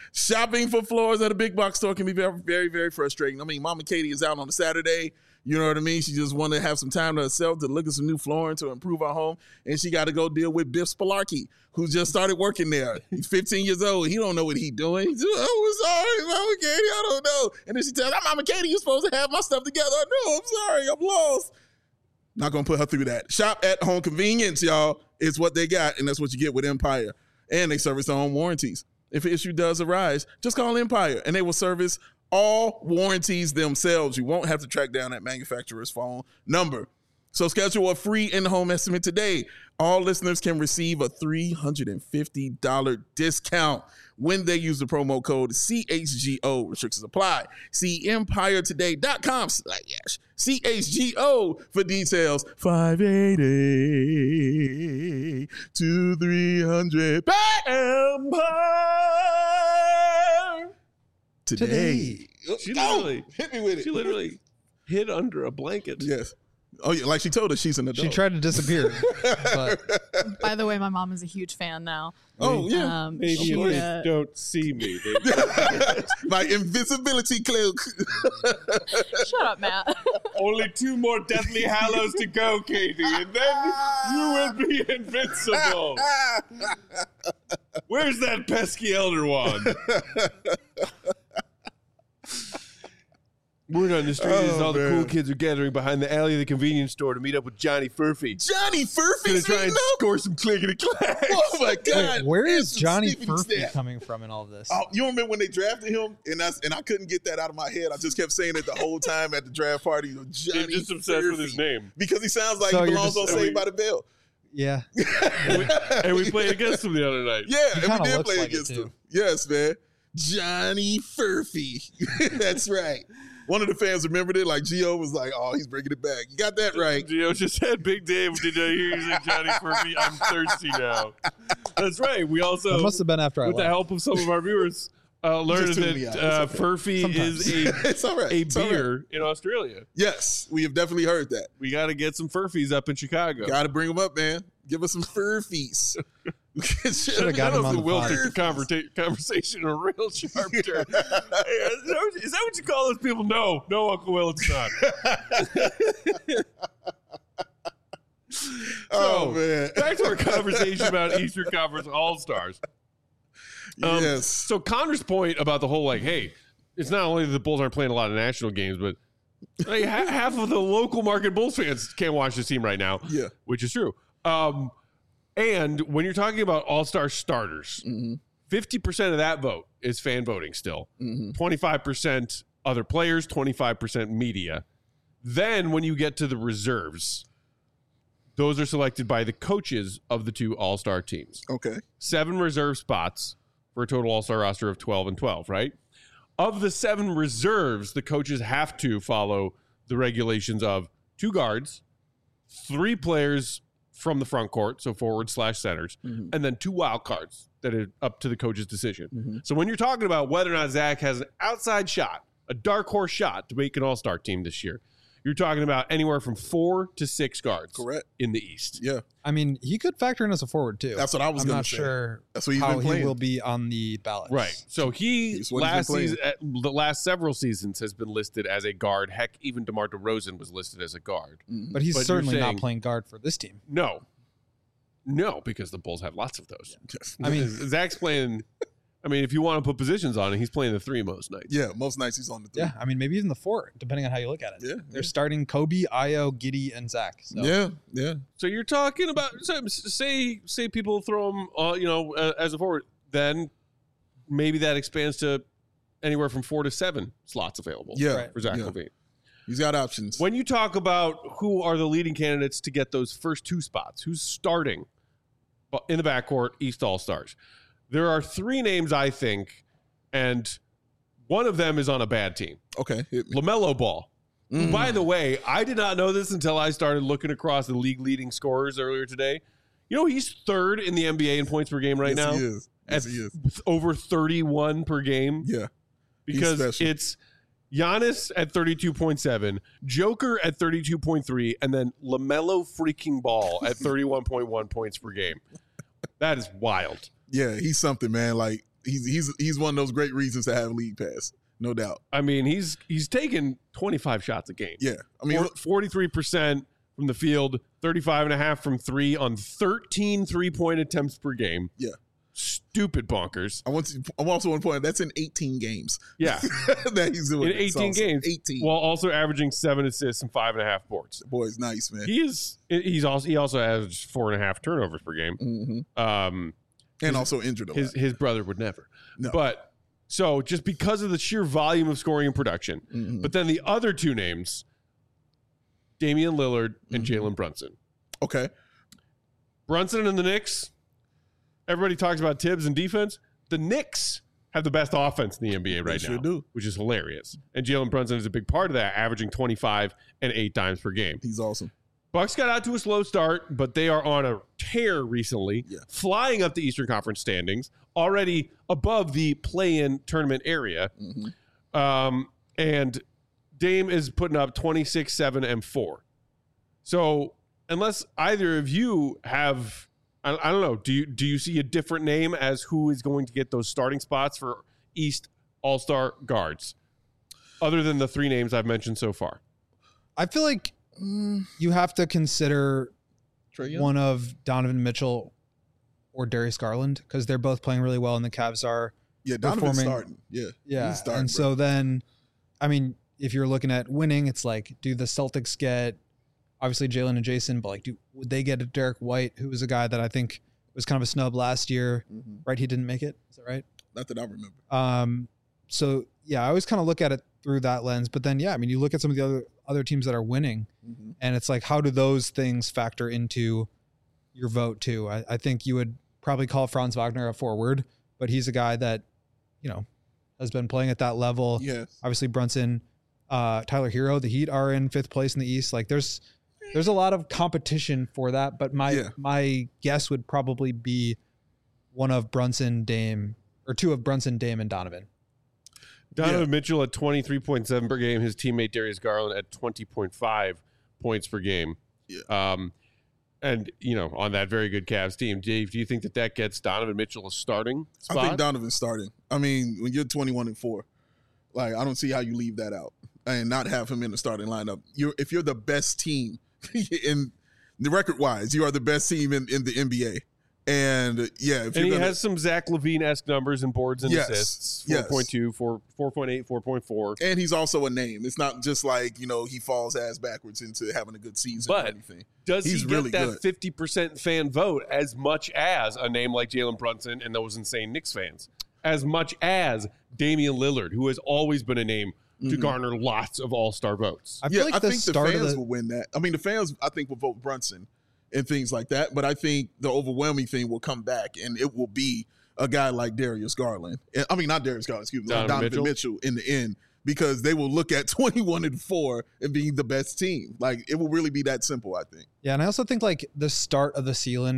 Shopping for floors at a big box store can be very, very, very frustrating. I mean, Mama Katie is out on a Saturday. You know what I mean? She just wanted to have some time to herself to look at some new flooring to improve her home. And she got to go deal with Biff Spalarky, who just started working there. He's 15 years old. He don't know what he's doing. He's just, oh, sorry, Mama Katie, I don't know. And then she tells, Mama Katie, you're supposed to have my stuff together. I know, I'm sorry, I'm lost. Not going to put her through that. Shop at home convenience, y'all. It's what they got, and that's what you get with Empire. And they service their own warranties. If an issue does arise, just call Empire, and they will service all warranties themselves. You won't have to track down that manufacturer's phone number. So schedule a free in-home estimate today. All listeners can receive a $350 discount when they use the promo code CHGO. Restrictions apply. See EmpireToday.com/CHGO for details. 580 to 300 Empire today. She literally hit me with it. She literally hid under a blanket. Yes. Oh yeah, like she told us she's an adult. She tried to disappear. But By the way, my mom is a huge fan now. Oh yeah. Maybe she, you don't see me. My invisibility cloak. Shut up, Matt. Only 2 more Deathly Hallows to go, Katie, and then you will be invincible. Where's that pesky Elder Wand? Word on the street is all the cool kids are gathering behind the alley of the convenience store to meet up with Johnny Furphy. Johnny Furphy's Gonna try and score some clickety-clacks. Oh my God! wait, where is Some Johnny snippety Furphy snap. coming from in all of this? Oh, you remember when they drafted him, and I couldn't get that out of my head. I just kept saying it the whole time at the draft party. Johnny You're just obsessed with his Furphy. name. Because he sounds like So he you're belongs just- on Saved by the Bell. Yeah. And we played against him the other night. Yeah, and kinda we did looks play like it, against too. him. Yes, man. Johnny Furphy. That's right. One of the fans remembered it. Like Gio was like, "Oh, he's bringing it back." You got that right. Gio just said, "Big Dave, did I hear you say Johnny Furphy? I'm thirsty now." That's right. We also, It must have been after I with the left. help of some of our viewers, learned just tuned me that out. It's okay. Furphy Sometimes. is It's all right. a It's all right. beer in Australia. Yes, we have definitely heard that. We got to get some Furfies up in Chicago. Got to bring them up, man. Give us some Furfies. Should've got him on the Will pod. took the conversation a real sharp turn. Hey, is that what you call those people? No, Uncle Will, it's not. Oh man. Back to our conversation about Eastern Conference All-Stars. Yes. So Connor's point about the whole, like, hey, it's not only that the Bulls aren't playing a lot of national games, but like, half of the local market Bulls fans can't watch this team right now. Yeah. Which is true. And when you're talking about all-star starters, 50% of that vote is fan voting still. 25% other players, 25% media. Then when you get to the reserves, those are selected by the coaches of the 2 all-star teams. Okay. 7 reserve spots for a total all-star roster of 12 and 12, right? Of the 7 reserves, the coaches have to follow the regulations of 2 guards, 3 players from the front court, so forward/centers, and then 2 wild cards that are up to the coach's decision. So when you're talking about whether or not Zach has an outside shot, a dark horse shot to make an all-star team this year, you're talking about anywhere from 4 to 6 guards Correct. in the East. Yeah. I mean, he could factor in as a forward too. That's what I was I'm gonna not say. sure That's what he's how been playing. he will be on the ballot. Right. So he He's what he's been the last several seasons has been listed as a guard. Heck, even DeMar DeRozan was listed as a guard. But he's But you're certainly saying- not playing guard for this team. No, because the Bulls have lots of those. I mean- Zach's playing. I mean, if you want to put positions on it, he's playing the 3 most nights. Yeah, most nights he's on the 3. Yeah, I mean, maybe even the 4, depending on how you look at it. Yeah, They're yeah. starting Kobe, Ayo, Giddy, and Zach. So. Yeah. So you're talking about say people throw him, as a forward, then maybe that expands to anywhere from 4 to 7 slots available. Yeah. Right. for Zach Yeah. LaVine. He's got options. When you talk about who are the leading candidates to get those first 2 spots, who's starting in the backcourt, East All-Stars, there are 3 names, I think, and one of them is on a bad team. Okay. Hit me. LaMelo Ball. Who, by the way, I did not know this until I started looking across the league leading scorers earlier today. You know, he's 3rd in the NBA in points per game right Yes, now. He is. Yes, At he is. over 31 per game. Yeah. Because special. it's Giannis at 32.7, Joker at 32.3, and then LaMelo freaking Ball at 31.1 points per game. That is wild. Yeah, he's something, man. Like he's one of those great reasons to have League Pass, no doubt. I mean, he's taken 25 shots a game. Yeah, I mean, 43% from the field, 35.5 from three on 13 3-point attempts per game. Yeah. Stupid bonkers. I'm also on point. That's in 18 games. Yeah. That he's doing. In 18 games. 18. While also averaging 7 assists and 5.5 boards. The boy's nice, man. He also averaged 4.5 turnovers per game. Mm-hmm. And also injured a lot. His brother would never. No. But so just because of the sheer volume of scoring and production. Mm-hmm. But then the other two names, Damian Lillard and Jalen Brunson. Okay. Brunson and the Knicks. Everybody talks about Tibbs and defense. The Knicks have the best offense in the NBA right now, do. which is hilarious. And Jalen Brunson is a big part of that, averaging 25 and 8 dimes per game. He's awesome. Bucks got out to a slow start, but they are on a tear recently, flying up the Eastern Conference standings, already above the play-in tournament area. Mm-hmm. And Dame is putting up 26, 7, and 4. So unless either of you have, I don't know, do you see a different name as who is going to get those starting spots for East All-Star guards, other than the three names I've mentioned so far? I feel like you have to consider one of Donovan Mitchell or Darius Garland because they're both playing really well and the Cavs are Donovan's starting. Yeah. He's starting, and bro. so then, I mean, if you're looking at winning, it's like, do the Celtics get obviously Jalen and Jason, but like, would they get a Derek White, who was a guy that I think was kind of a snub last year, right? He didn't make it. Is that right? Not that I remember. So yeah, I always kind of look at it through that lens, but then, yeah, I mean, you look at some of the other teams that are winning and it's like, how do those things factor into your vote too? I think you would probably call Franz Wagner a forward, but he's a guy that, you know, has been playing at that level. Yes. Obviously Brunson, Tyler Hero, the Heat are in 5th place in the East. Like there's a lot of competition for that, but my guess would probably be one of Brunson, Dame, or two of Brunson, Dame, and Donovan. Donovan Mitchell at 23.7 per game. His teammate Darius Garland at 20.5 points per game. Yeah. And, you know, on that very good Cavs team. Dave, do you think that gets Donovan Mitchell a starting spot? I think Donovan's starting. I mean, when you're 21-4, like, I don't see how you leave that out and not have him in the starting lineup. If you're the best team in the record-wise, you are the best team in the NBA. And yeah, he has some Zach LaVine-esque numbers and boards and assists. 4.2, 4.8, 4.4. And he's also a name. It's not just like, you know, he falls ass backwards into having a good season or anything. Does he get really that 50% fan vote as much as a name like Jalen Brunson and those insane Knicks fans? As much as Damian Lillard, who has always been a name to garner lots of all-star votes? I feel like I think the fans will win that. I mean, the fans, I think, will vote Brunson and things like that. But I think the overwhelming thing will come back, and it will be a guy like Darius Garland. I mean, not Darius Garland, excuse me, Donovan Mitchell in the end, because they will look at 21-4 and being the best team. Like, it will really be that simple, I think. Yeah, and I also think, like, the start of the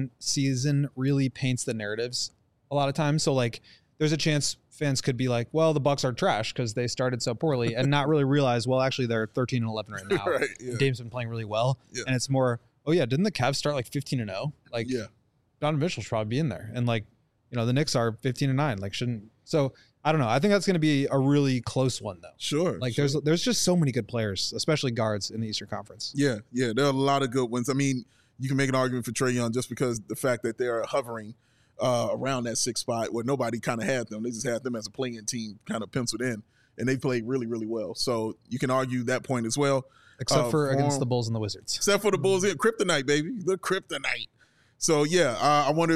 season really paints the narratives a lot of times. So, like, there's a chance fans could be like, well, the Bucks are trash because they started so poorly and not really realize, well, actually, they're 13-11 right now. Right, yeah. Dame's been playing really well. Yeah. And it's more, oh yeah, didn't the Cavs start like 15-0? Like, Donovan Mitchell should probably be in there. And like, you know, the Knicks are 15-9. Like, shouldn't. So I don't know. I think that's going to be a really close one though. Sure. Like, there's just so many good players, especially guards in the Eastern Conference. Yeah, there are a lot of good ones. I mean, you can make an argument for Trae Young just because the fact that they are hovering around that 6th spot where nobody kind of had them. They just had them as a playing team kind of penciled in, and they played really, really well. So you can argue that point as well. Except for against the Bulls and the Wizards. Except for the Bulls. Yeah, kryptonite, baby. The kryptonite. So, yeah, I wonder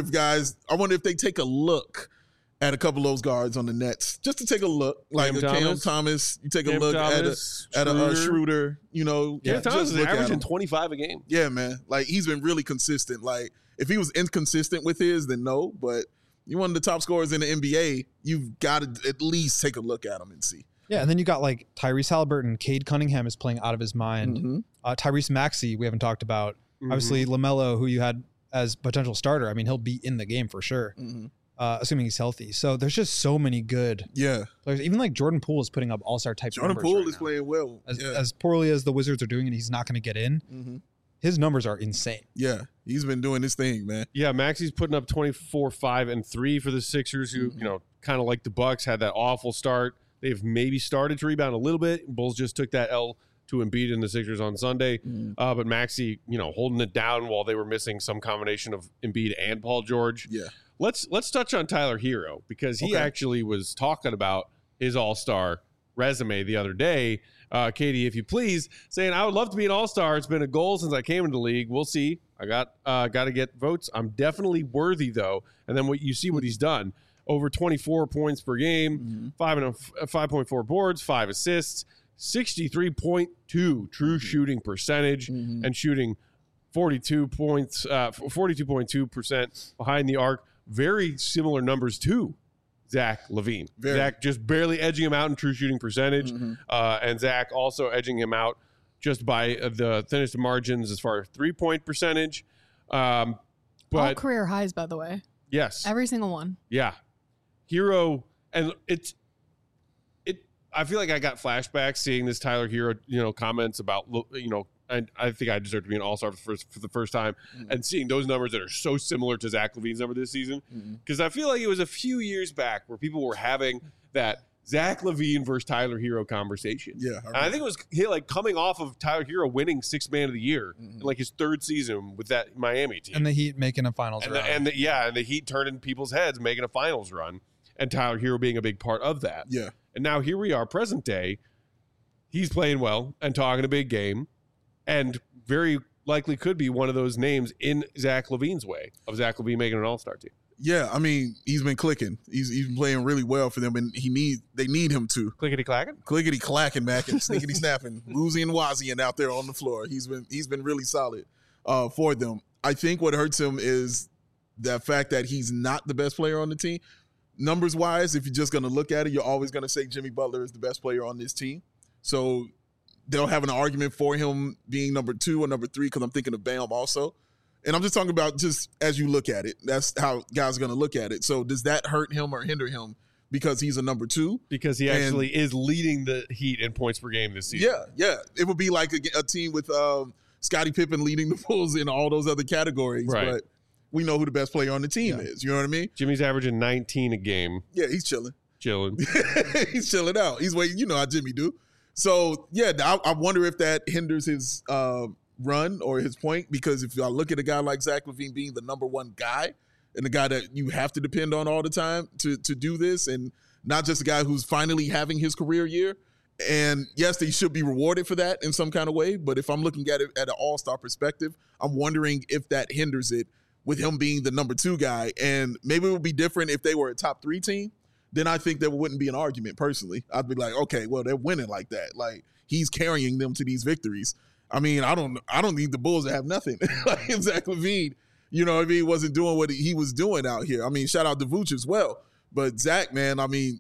if they take a look at a couple of those guards on the Nets, just to take a look. Like Cam Thomas, you take a look at a Schroeder, you know. Cam Thomas is averaging 25 a game. Yeah, man. Like, he's been really consistent. Like, if he was inconsistent with his, then no. But you're one of the top scorers in the NBA. You've got to at least take a look at him and see. Yeah, and then you got like Tyrese Halliburton. Cade Cunningham is playing out of his mind. Tyrese Maxey, we haven't talked about. Obviously, LaMelo, who you had as potential starter. I mean, he'll be in the game for sure, assuming he's healthy. So there's just so many good players. Even like Jordan Poole is putting up all-star type numbers. Jordan Poole is playing well. As poorly as the Wizards are doing it, he's not going to get in. his numbers are insane. Yeah, he's been doing his thing, man. Yeah, Maxi's putting up 24, 5, and 3 for the Sixers, who, kind of like the Bucks, had that awful start. They've maybe started to rebound a little bit. Bulls just took that L to Embiid and the Sixers on Sunday. But Maxey, holding it down while they were missing some combination of Embiid and Paul George. Yeah. Let's touch on Tyler Hero, because he actually was talking about his all-star resume the other day. Katie, if you please, saying, I would love to be an all-star. It's been a goal since I came into the league. We'll see. I got to get votes. I'm definitely worthy, though. And then what he's done. Over 24 points per game, 5.4 boards, 5 assists, 63.2 true shooting percentage, and shooting 42.2% behind the arc. Very similar numbers to Zach LaVine. Zach just barely edging him out in true shooting percentage, and Zach also edging him out just by the thinnest margins as far as 3-point percentage. But all career highs, by the way. Yes, every single one. Yeah, Hero, and I feel like I got flashbacks seeing this Tyler Hero, comments about, and I think I deserve to be an all-star for the first time, and seeing those numbers that are so similar to Zach LaVine's number this season, because I feel like it was a few years back where people were having that Zach LaVine versus Tyler Hero conversation. Yeah, and I think it was coming off of Tyler Hero winning Sixth Man of the Year in his third season with that Miami team, and the Heat making a finals run, and the Heat turning people's heads, making a finals run, and Tyler Hero being a big part of that. Yeah, and now here we are, present day. He's playing well and talking a big game, and very likely could be one of those names in Zach LaVine's way of Zach LaVine making an all-star team. Yeah, I mean, he's been clicking. He's been playing really well for them, and they need him to. Clickety-clacking? Clickety-clacking, Mac, and snickety-snapping, woozy and wazzy out there on the floor. He's been really solid for them. I think what hurts him is the fact that he's not the best player on the team. Numbers-wise, if you're just going to look at it, you're always going to say Jimmy Butler is the best player on this team. So they'll have an argument for him being number 2 or number 3, because I'm thinking of Bam also. And I'm just talking about just as you look at it. That's how guys are going to look at it. So does that hurt him or hinder him because he's a number 2? Because he actually is leading the Heat in points per game this season. Yeah. It would be like a team with Scottie Pippen leading the Bulls in all those other categories. Right. But we know who the best player on the team is. You know what I mean? Jimmy's averaging 19 a game. Yeah, he's chilling. He's chilling out. He's waiting. You know how Jimmy do. So, yeah, I wonder if that hinders his run or his point, because if I look at a guy like Zach LaVine being the number 1 guy and the guy that you have to depend on all the time to do this, and not just a guy who's finally having his career year, and yes, they should be rewarded for that in some kind of way, but if I'm looking at it at an all-star perspective, I'm wondering if that hinders it with him being the number 2 guy. And maybe it would be different if they were a top 3 team. Then I think there wouldn't be an argument personally. I'd be like, okay, well, they're winning like that. Like, he's carrying them to these victories. I mean, I don't need the Bulls to have nothing. Like, Zach LaVine, wasn't doing what he was doing out here. I mean, shout out to Vooch as well. But Zach, man, I mean,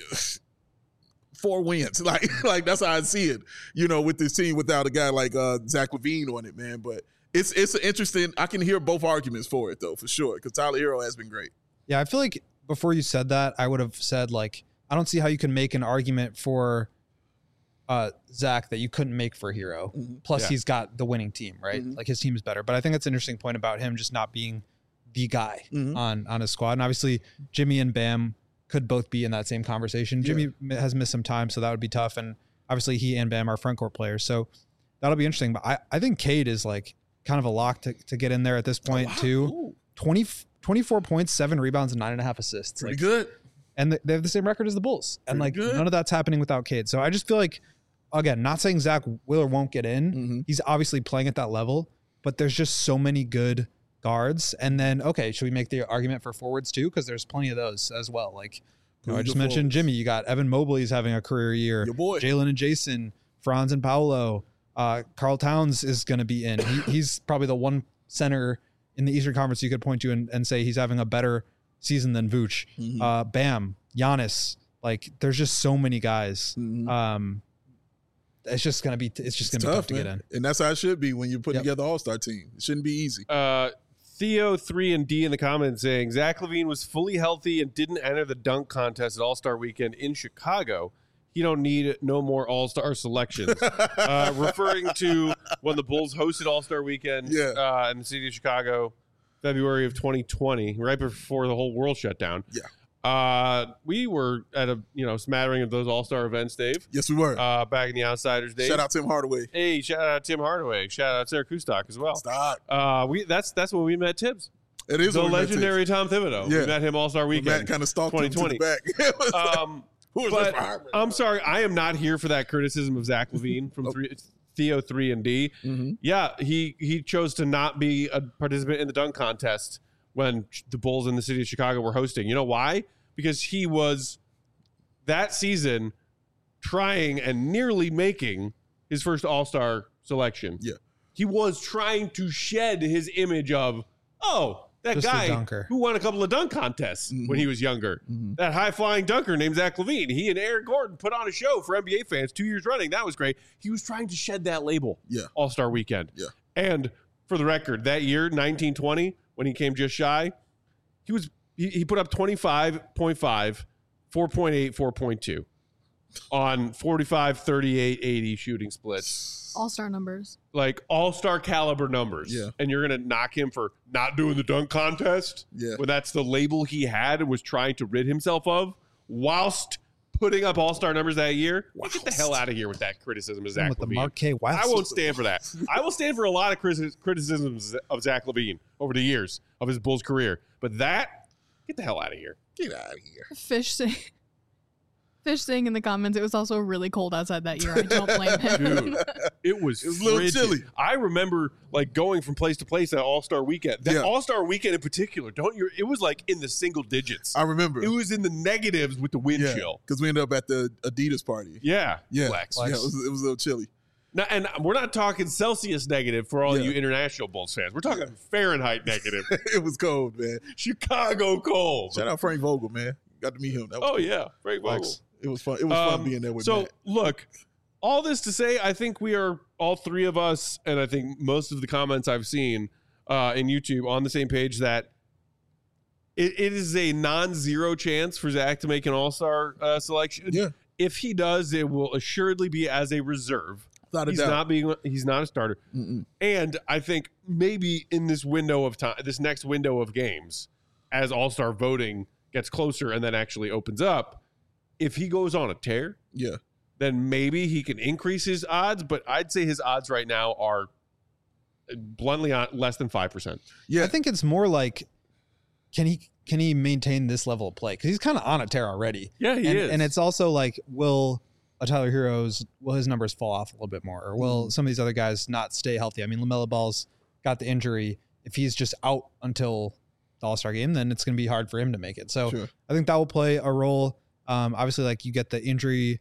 4 wins. Like that's how I see it, with this team without a guy like Zach LaVine on it, man. But it's interesting. I can hear both arguments for it, though, for sure, because Tyler Hero has been great. Yeah, I feel like before you said that, I would have said, like, I don't see how you can make an argument for Zach that you couldn't make for Hero. Plus, he's got the winning team, right? Like, his team is better. But I think that's an interesting point about him just not being the guy on his squad. And obviously, Jimmy and Bam could both be in that same conversation. Jimmy has missed some time, so that would be tough. And obviously, he and Bam are front court players. So that'll be interesting. But I think Cade is, like, kind of a lock to get in there at this point, too. 24 points, 7 rebounds, and 9.5 assists. Pretty good. And they have the same record as the Bulls. And none of that's happening without Cade. So I just feel like, again, not saying Zach will or won't get in. He's obviously playing at that level, but there's just so many good guards. And then, okay, should we make the argument for forwards too? Because there's plenty of those as well. Like, I just mentioned Jimmy. You got Evan Mobley's having a career year. Your boy. Jalen and Jason, Franz and Paolo. Karl Towns is going to be in. He's probably the one center in the Eastern Conference you could point to and say he's having a better season than Vooch. Bam, Giannis. Like, there's just so many guys. It's just gonna be tough to get in, and that's how it should be when you're putting together an all-star team. It shouldn't be easy. Theo 3 and D in the comments saying Zach LaVine was fully healthy and didn't enter the dunk contest at All-Star Weekend in Chicago. he don't need no more All-Star selections. Referring to when the Bulls hosted All-Star Weekend in the city of Chicago, February of 2020, right before the whole world shut down. Yeah. We were at a smattering of those All-Star events, Dave. Yes, we were. Back in the Outsiders days. Shout out Tim Hardaway. Hey, shout out Tim Hardaway. Shout out Sarah Kustok as well. Stop. That's when we met Tibbs. It is the legendary Tom Thibodeau. Yeah. We met him All-Star Weekend. Matt kind of stalked him to the back. But I'm sorry, I am not here for that criticism of Zach LaVine from Theo 3 and D. Mm-hmm. Yeah, he chose to not be a participant in the dunk contest when the Bulls in the city of Chicago were hosting. You know why? Because he was that season trying and nearly making his first All-Star selection. Yeah. He was trying to shed his image of, that Just guy who won a couple of dunk contests when he was younger. Mm-hmm. That high-flying dunker named Zach LaVine. He and Eric Gordon put on a show for NBA fans 2 years running. That was great. He was trying to shed that label. Yeah. All-Star Weekend. Yeah. And for the record, that year, 1920, when he came just shy, he put up 25.5, 4.8, 4.2 on 45, 38, 80 shooting splits. All-star numbers. Like all-star caliber numbers. Yeah. And you're going to knock him for not doing the dunk contest when that's the label he had and was trying to rid himself of whilst putting up all-star numbers that year. Get the hell out of here with that criticism of Zach with LaVine. the Mark K. Wild. I won't stand for that. I will stand for a lot of criticisms of Zach LaVine over the years of his Bulls career. But get the hell out of here. Get out of here. Fish saying in the comments, it was also really cold outside that year. I don't blame him. Dude, it was a little frigid. chilly. I remember going from place to place at All-Star Weekend. That All-Star Weekend in particular, it was like in the single digits. I remember. It was in the negatives with the wind chill. Because we ended up at the Adidas party. Yeah. Flex. Yeah, it was a little chilly. Now, and we're not talking Celsius negative for all you international Bulls fans. We're talking Fahrenheit negative. It was cold, man. Chicago cold. Shout out Frank Vogel, man. Got to meet him. That was cool. Frank Vogel. It was fun. It was fun being there with Matt. Look, all this to say, I think we are, all three of us, and I think most of the comments I've seen in YouTube on the same page that it is a non-zero chance for Zach to make an All-Star selection. Yeah. If he does, it will assuredly be as a reserve. He's not a starter. Mm-mm. And I think maybe in this window of time, this next window of games, as All-Star voting gets closer and then actually opens up, if he goes on a tear, then maybe he can increase his odds. But I'd say his odds right now are bluntly less than 5%. Yeah, I think it's more like, can he maintain this level of play? Because he's kind of on a tear already. Yeah, he is. And it's also like, will Tyler Hero's, will his numbers fall off a little bit more, or will some of these other guys not stay healthy? I mean, LaMelo Ball's got the injury. If he's just out until the All-Star game, then it's going to be hard for him to make it. So I think that will play a role. Obviously, like you get the injury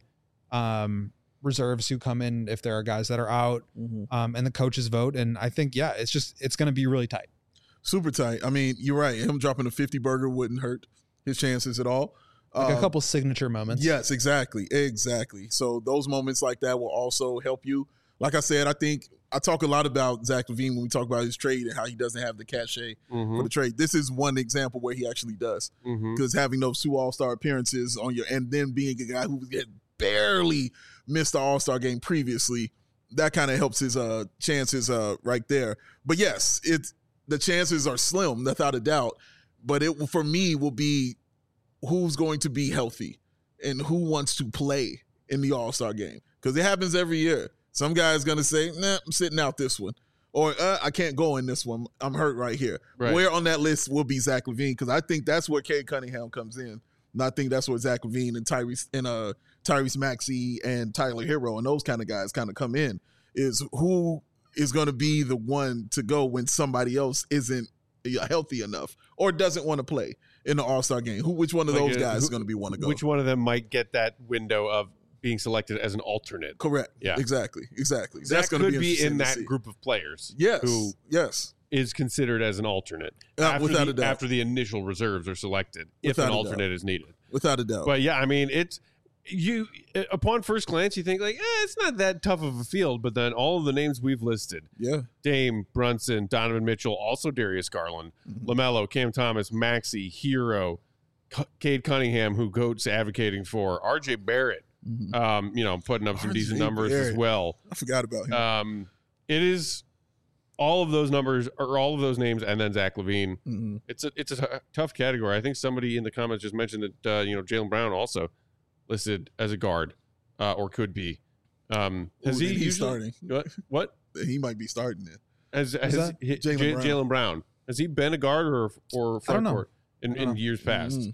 reserves who come in if there are guys that are out, and the coaches vote. And I think, it's going to be really tight. Super tight. I mean, you're right. Him dropping a 50 burger wouldn't hurt his chances at all. Like a couple signature moments. Yes, exactly. So those moments like that will also help you. Like I said, I think I talk a lot about Zach LaVine when we talk about his trade and how he doesn't have the cachet for the trade. This is one example where he actually does, because having those 2 All-Star appearances on and then being a guy who had barely missed the All-Star game previously, that kind of helps his chances right there. But yes, the chances are slim, without a doubt. But it for me will be who's going to be healthy and who wants to play in the All-Star game, because it happens every year. Some guy's going to say, nah, I'm sitting out this one. Or I can't go in this one. I'm hurt right here. Right. Where on that list will be Zach LaVine, because I think that's where Cade Cunningham comes in. And I think that's where Zach LaVine and Tyrese Maxey and Tyler Hero and those kind of guys kind of come in, is who is going to be the one to go when somebody else isn't healthy enough or doesn't want to play in the All-Star game. Which one of those guys is going to be one to go? Which one of them might get that window of being selected as an alternate? Correct. Yeah. Exactly. Zach could be in that group of players. Yes. Who is considered as an alternate without a doubt. after the initial reserves are selected, if an alternate is needed. Without a doubt. But yeah, I mean, you upon first glance you think like, it's not that tough of a field, but then all of the names we've listed, Dame, Brunson, Donovan Mitchell, also Darius Garland, LaMelo, Cam Thomas, Maxey, Hero, Cade Cunningham, who Goat's advocating for, RJ Barrett, Putting up some decent numbers as well. I forgot about him. It is all of those numbers or all of those names, and then Zach LaVine. Mm-hmm. It's a tough category. I think somebody in the comments just mentioned that Jaylen Brown also listed as a guard or could be. Has he usually starting? What? He might be starting it. Jaylen Brown. Has he been a guard or front court in years past?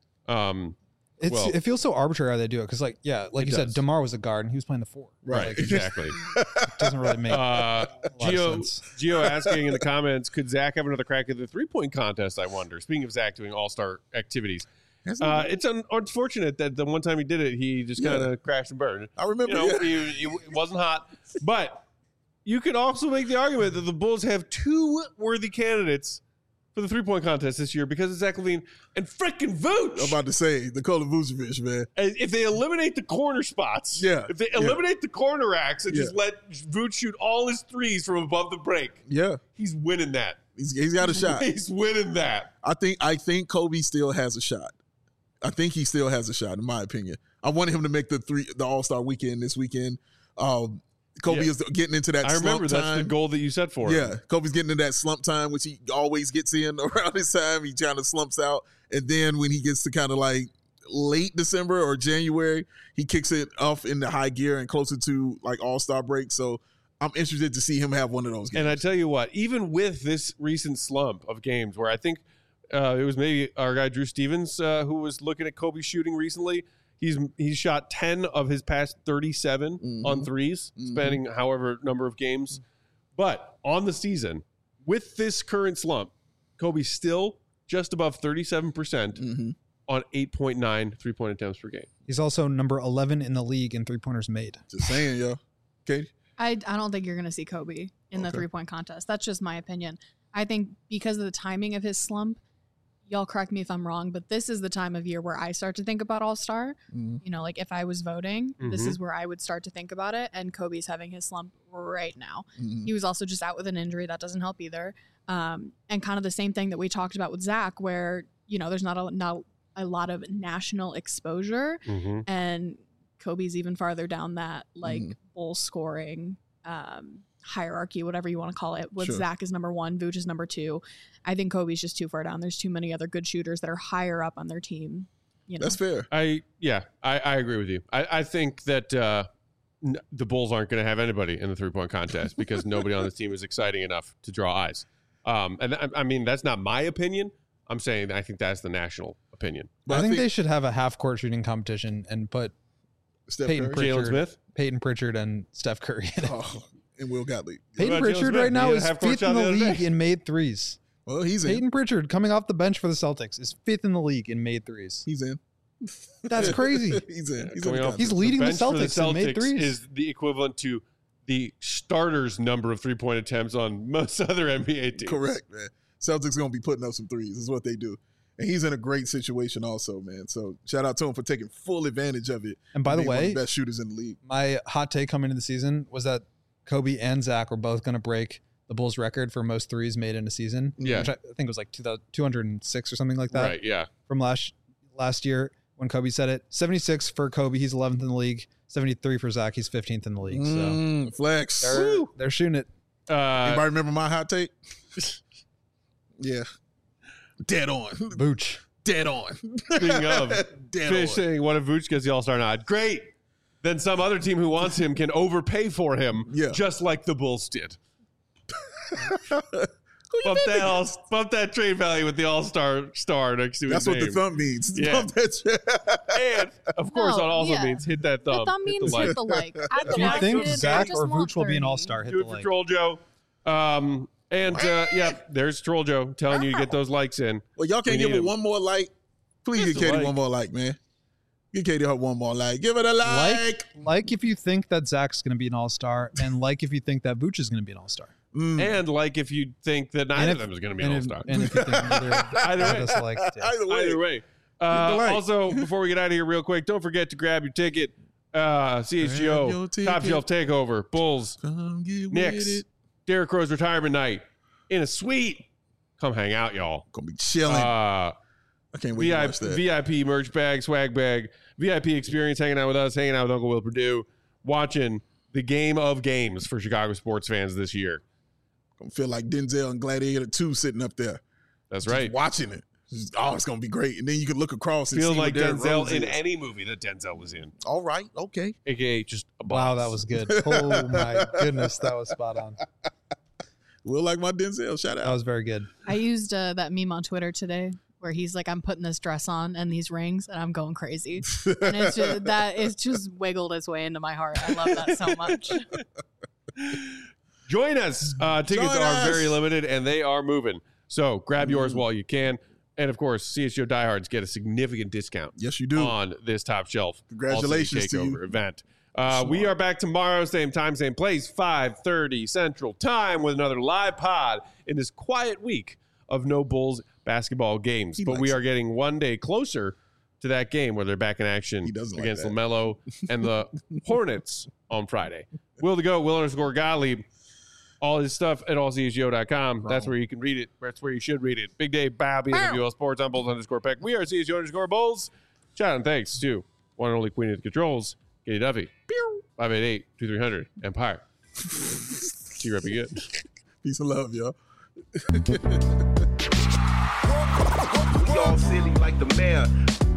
It feels so arbitrary how they do it because, like you said, DeMar was a guard and he was playing the 4. Right, like, exactly. It doesn't really make a lot of sense. Gio asking in the comments, could Zach have another crack at the 3-point contest, I wonder? Speaking of Zach doing all-star activities. It's unfortunate that the one time he did it, he just kind of crashed and burned. I remember. He wasn't hot. But you could also make the argument that the Bulls have 2 worthy candidates for the 3-point contest this year because of Zach LaVine and frickin' Vooch. I'm about to say Nikola Vucevic, man. And if they eliminate the corner spots, if they eliminate the corner racks and just let Vooch shoot all his threes from above the break, he's winning that. He's got a shot. He's winning that. I think Kobe still has a shot. I think he still has a shot, in my opinion. I wanted him to make the All-Star weekend this weekend. Kobe is getting into that slump time. I remember that's the goal that you set for him. Yeah, Kobe's getting into that slump time, which he always gets in around this time. He kind of slumps out. And then when he gets to kind of like late December or January, he kicks it off in the high gear and closer to like All-Star break. So I'm interested to see him have one of those games. And I tell you what, even with this recent slump of games where I think it was maybe our guy Drew Stevens who was looking at Kobe shooting recently. He's shot 10 of his past 37 on threes, spanning however number of games. But on the season, with this current slump, Kobe's still just above 37% on 8.9 3-point attempts per game. He's also number 11 in the league in 3-pointers made. Just saying, yo. Katie? I don't think you're going to see Kobe in the 3-point contest. That's just my opinion. I think because of the timing of his slump, y'all correct me if I'm wrong, but this is the time of year where I start to think about All-Star. Like if I was voting, this is where I would start to think about it. And Kobe's having his slump right now. He was also just out with an injury. That doesn't help either. And kind of the same thing that we talked about with Zach, where, there's not a lot of national exposure. And Kobe's even farther down that, Bull scoring hierarchy, whatever you want to call it, with Zach is number 1, Vooch is number 2. I think Kobe's just too far down. There's too many other good shooters that are higher up on their team. That's fair. I agree with you. I think that the Bulls aren't going to have anybody in the 3-point contest because nobody on this team is exciting enough to draw eyes. And I mean, that's not my opinion. I'm saying I think that's the national opinion. But I think they should have a half-court shooting competition and put Jalen Smith, Peyton Pritchard, and Steph Curry in it. And Will Gottlieb. Peyton Pritchard right now is 5th in the league in made threes. Well, he's Peyton Pritchard coming off the bench for the Celtics is 5th in the league in made threes. He's in. That's crazy. He's in. He's leading the Celtics in made threes. Is the equivalent to the starters' number of 3-point attempts on most other NBA teams. Correct, man. Celtics going to be putting up some threes. Is what they do. And he's in a great situation also, man. So shout out to him for taking full advantage of it. And by the way, one of the best shooters in the league. My hot take coming into the season was that Kobe and Zach were both going to break the Bulls record for most threes made in a season. Yeah. Which I think was like 206 or something like that. Right, yeah. From last year when Kobe said it. 76 for Kobe, he's 11th in the league. 73 for Zach, he's 15th in the league. So flex. They're shooting it. Anybody remember my hot take? Yeah. Dead on. Vooch. Dead on. Speaking of, Fish saying, what if Vooch gets the All-Star nod? Great. Then some other team who wants him can overpay for him, just like the Bulls did. Bump that trade value with the All-Star star next to his That's name. What the thumb means. Yeah. And, of course, it also means hit that thumb. The thumb means hit the like. If you think Zach or Vooch will be an All-Star, hit Do the it for like. Troll Joe. There's Troll Joe telling you to get those likes in. Well, y'all can't give him one more like. Please give Katie one more like, man. Give Katie her one more like. Give it a like if you think that Zach's going to be an All-Star, and like if you think that Vooch is going to be an All-Star. And like if you think that neither of them is going to be an All-Star. And if you think either way. Also, before we get out of here real quick, don't forget to grab your ticket. CHGO, Top Shelf Takeover, Bulls, Knicks, Derrick Rose retirement night in a suite. Come hang out, y'all. Gonna be chilling. I can't wait to watch that. VIP merch bag, swag bag, VIP experience, hanging out with us, hanging out with Uncle Will Purdue, watching the game of games for Chicago sports fans this year. I feel like Denzel and Gladiator 2 sitting up there. That's just right. Watching it. It's going to be great. And then you can look across and Feel see like Denzel in is. any movie that Denzel was in. All right. Okay. AKA just a boss. Wow, that was good. Oh, my goodness. That was spot on. Will like my Denzel. Shout out. That was very good. I used that meme on Twitter today where he's like, I'm putting this dress on and these rings and I'm going crazy. And it's just wiggled its way into my heart. I love that so much. Join us. Tickets are very limited and they are moving. So grab yours while you can. And of course, CHGO diehards get a significant discount. Yes, you do. On this Top Shelf Congratulations to you. event. We are back tomorrow, same time, same place, 5:30 Central Time with another live pod in this quiet week of no Bulls basketball games. But we are getting one day closer to that game where they're back in action against LaMelo and the Hornets on Friday. Will to go, Will_Gottlieb. All his stuff at allchgo.com. That's where you can read it. That's where you should read it. Big Dave, Bobby, WL Sports. I'm Bulls_Peck. We are CHGO_Bulls. Shout out and thanks to one and only Queen of the Controls, Katie Duffy. 588-2300 Empire. See you right good. Peace and love, y'all. Y'all silly like the mayor.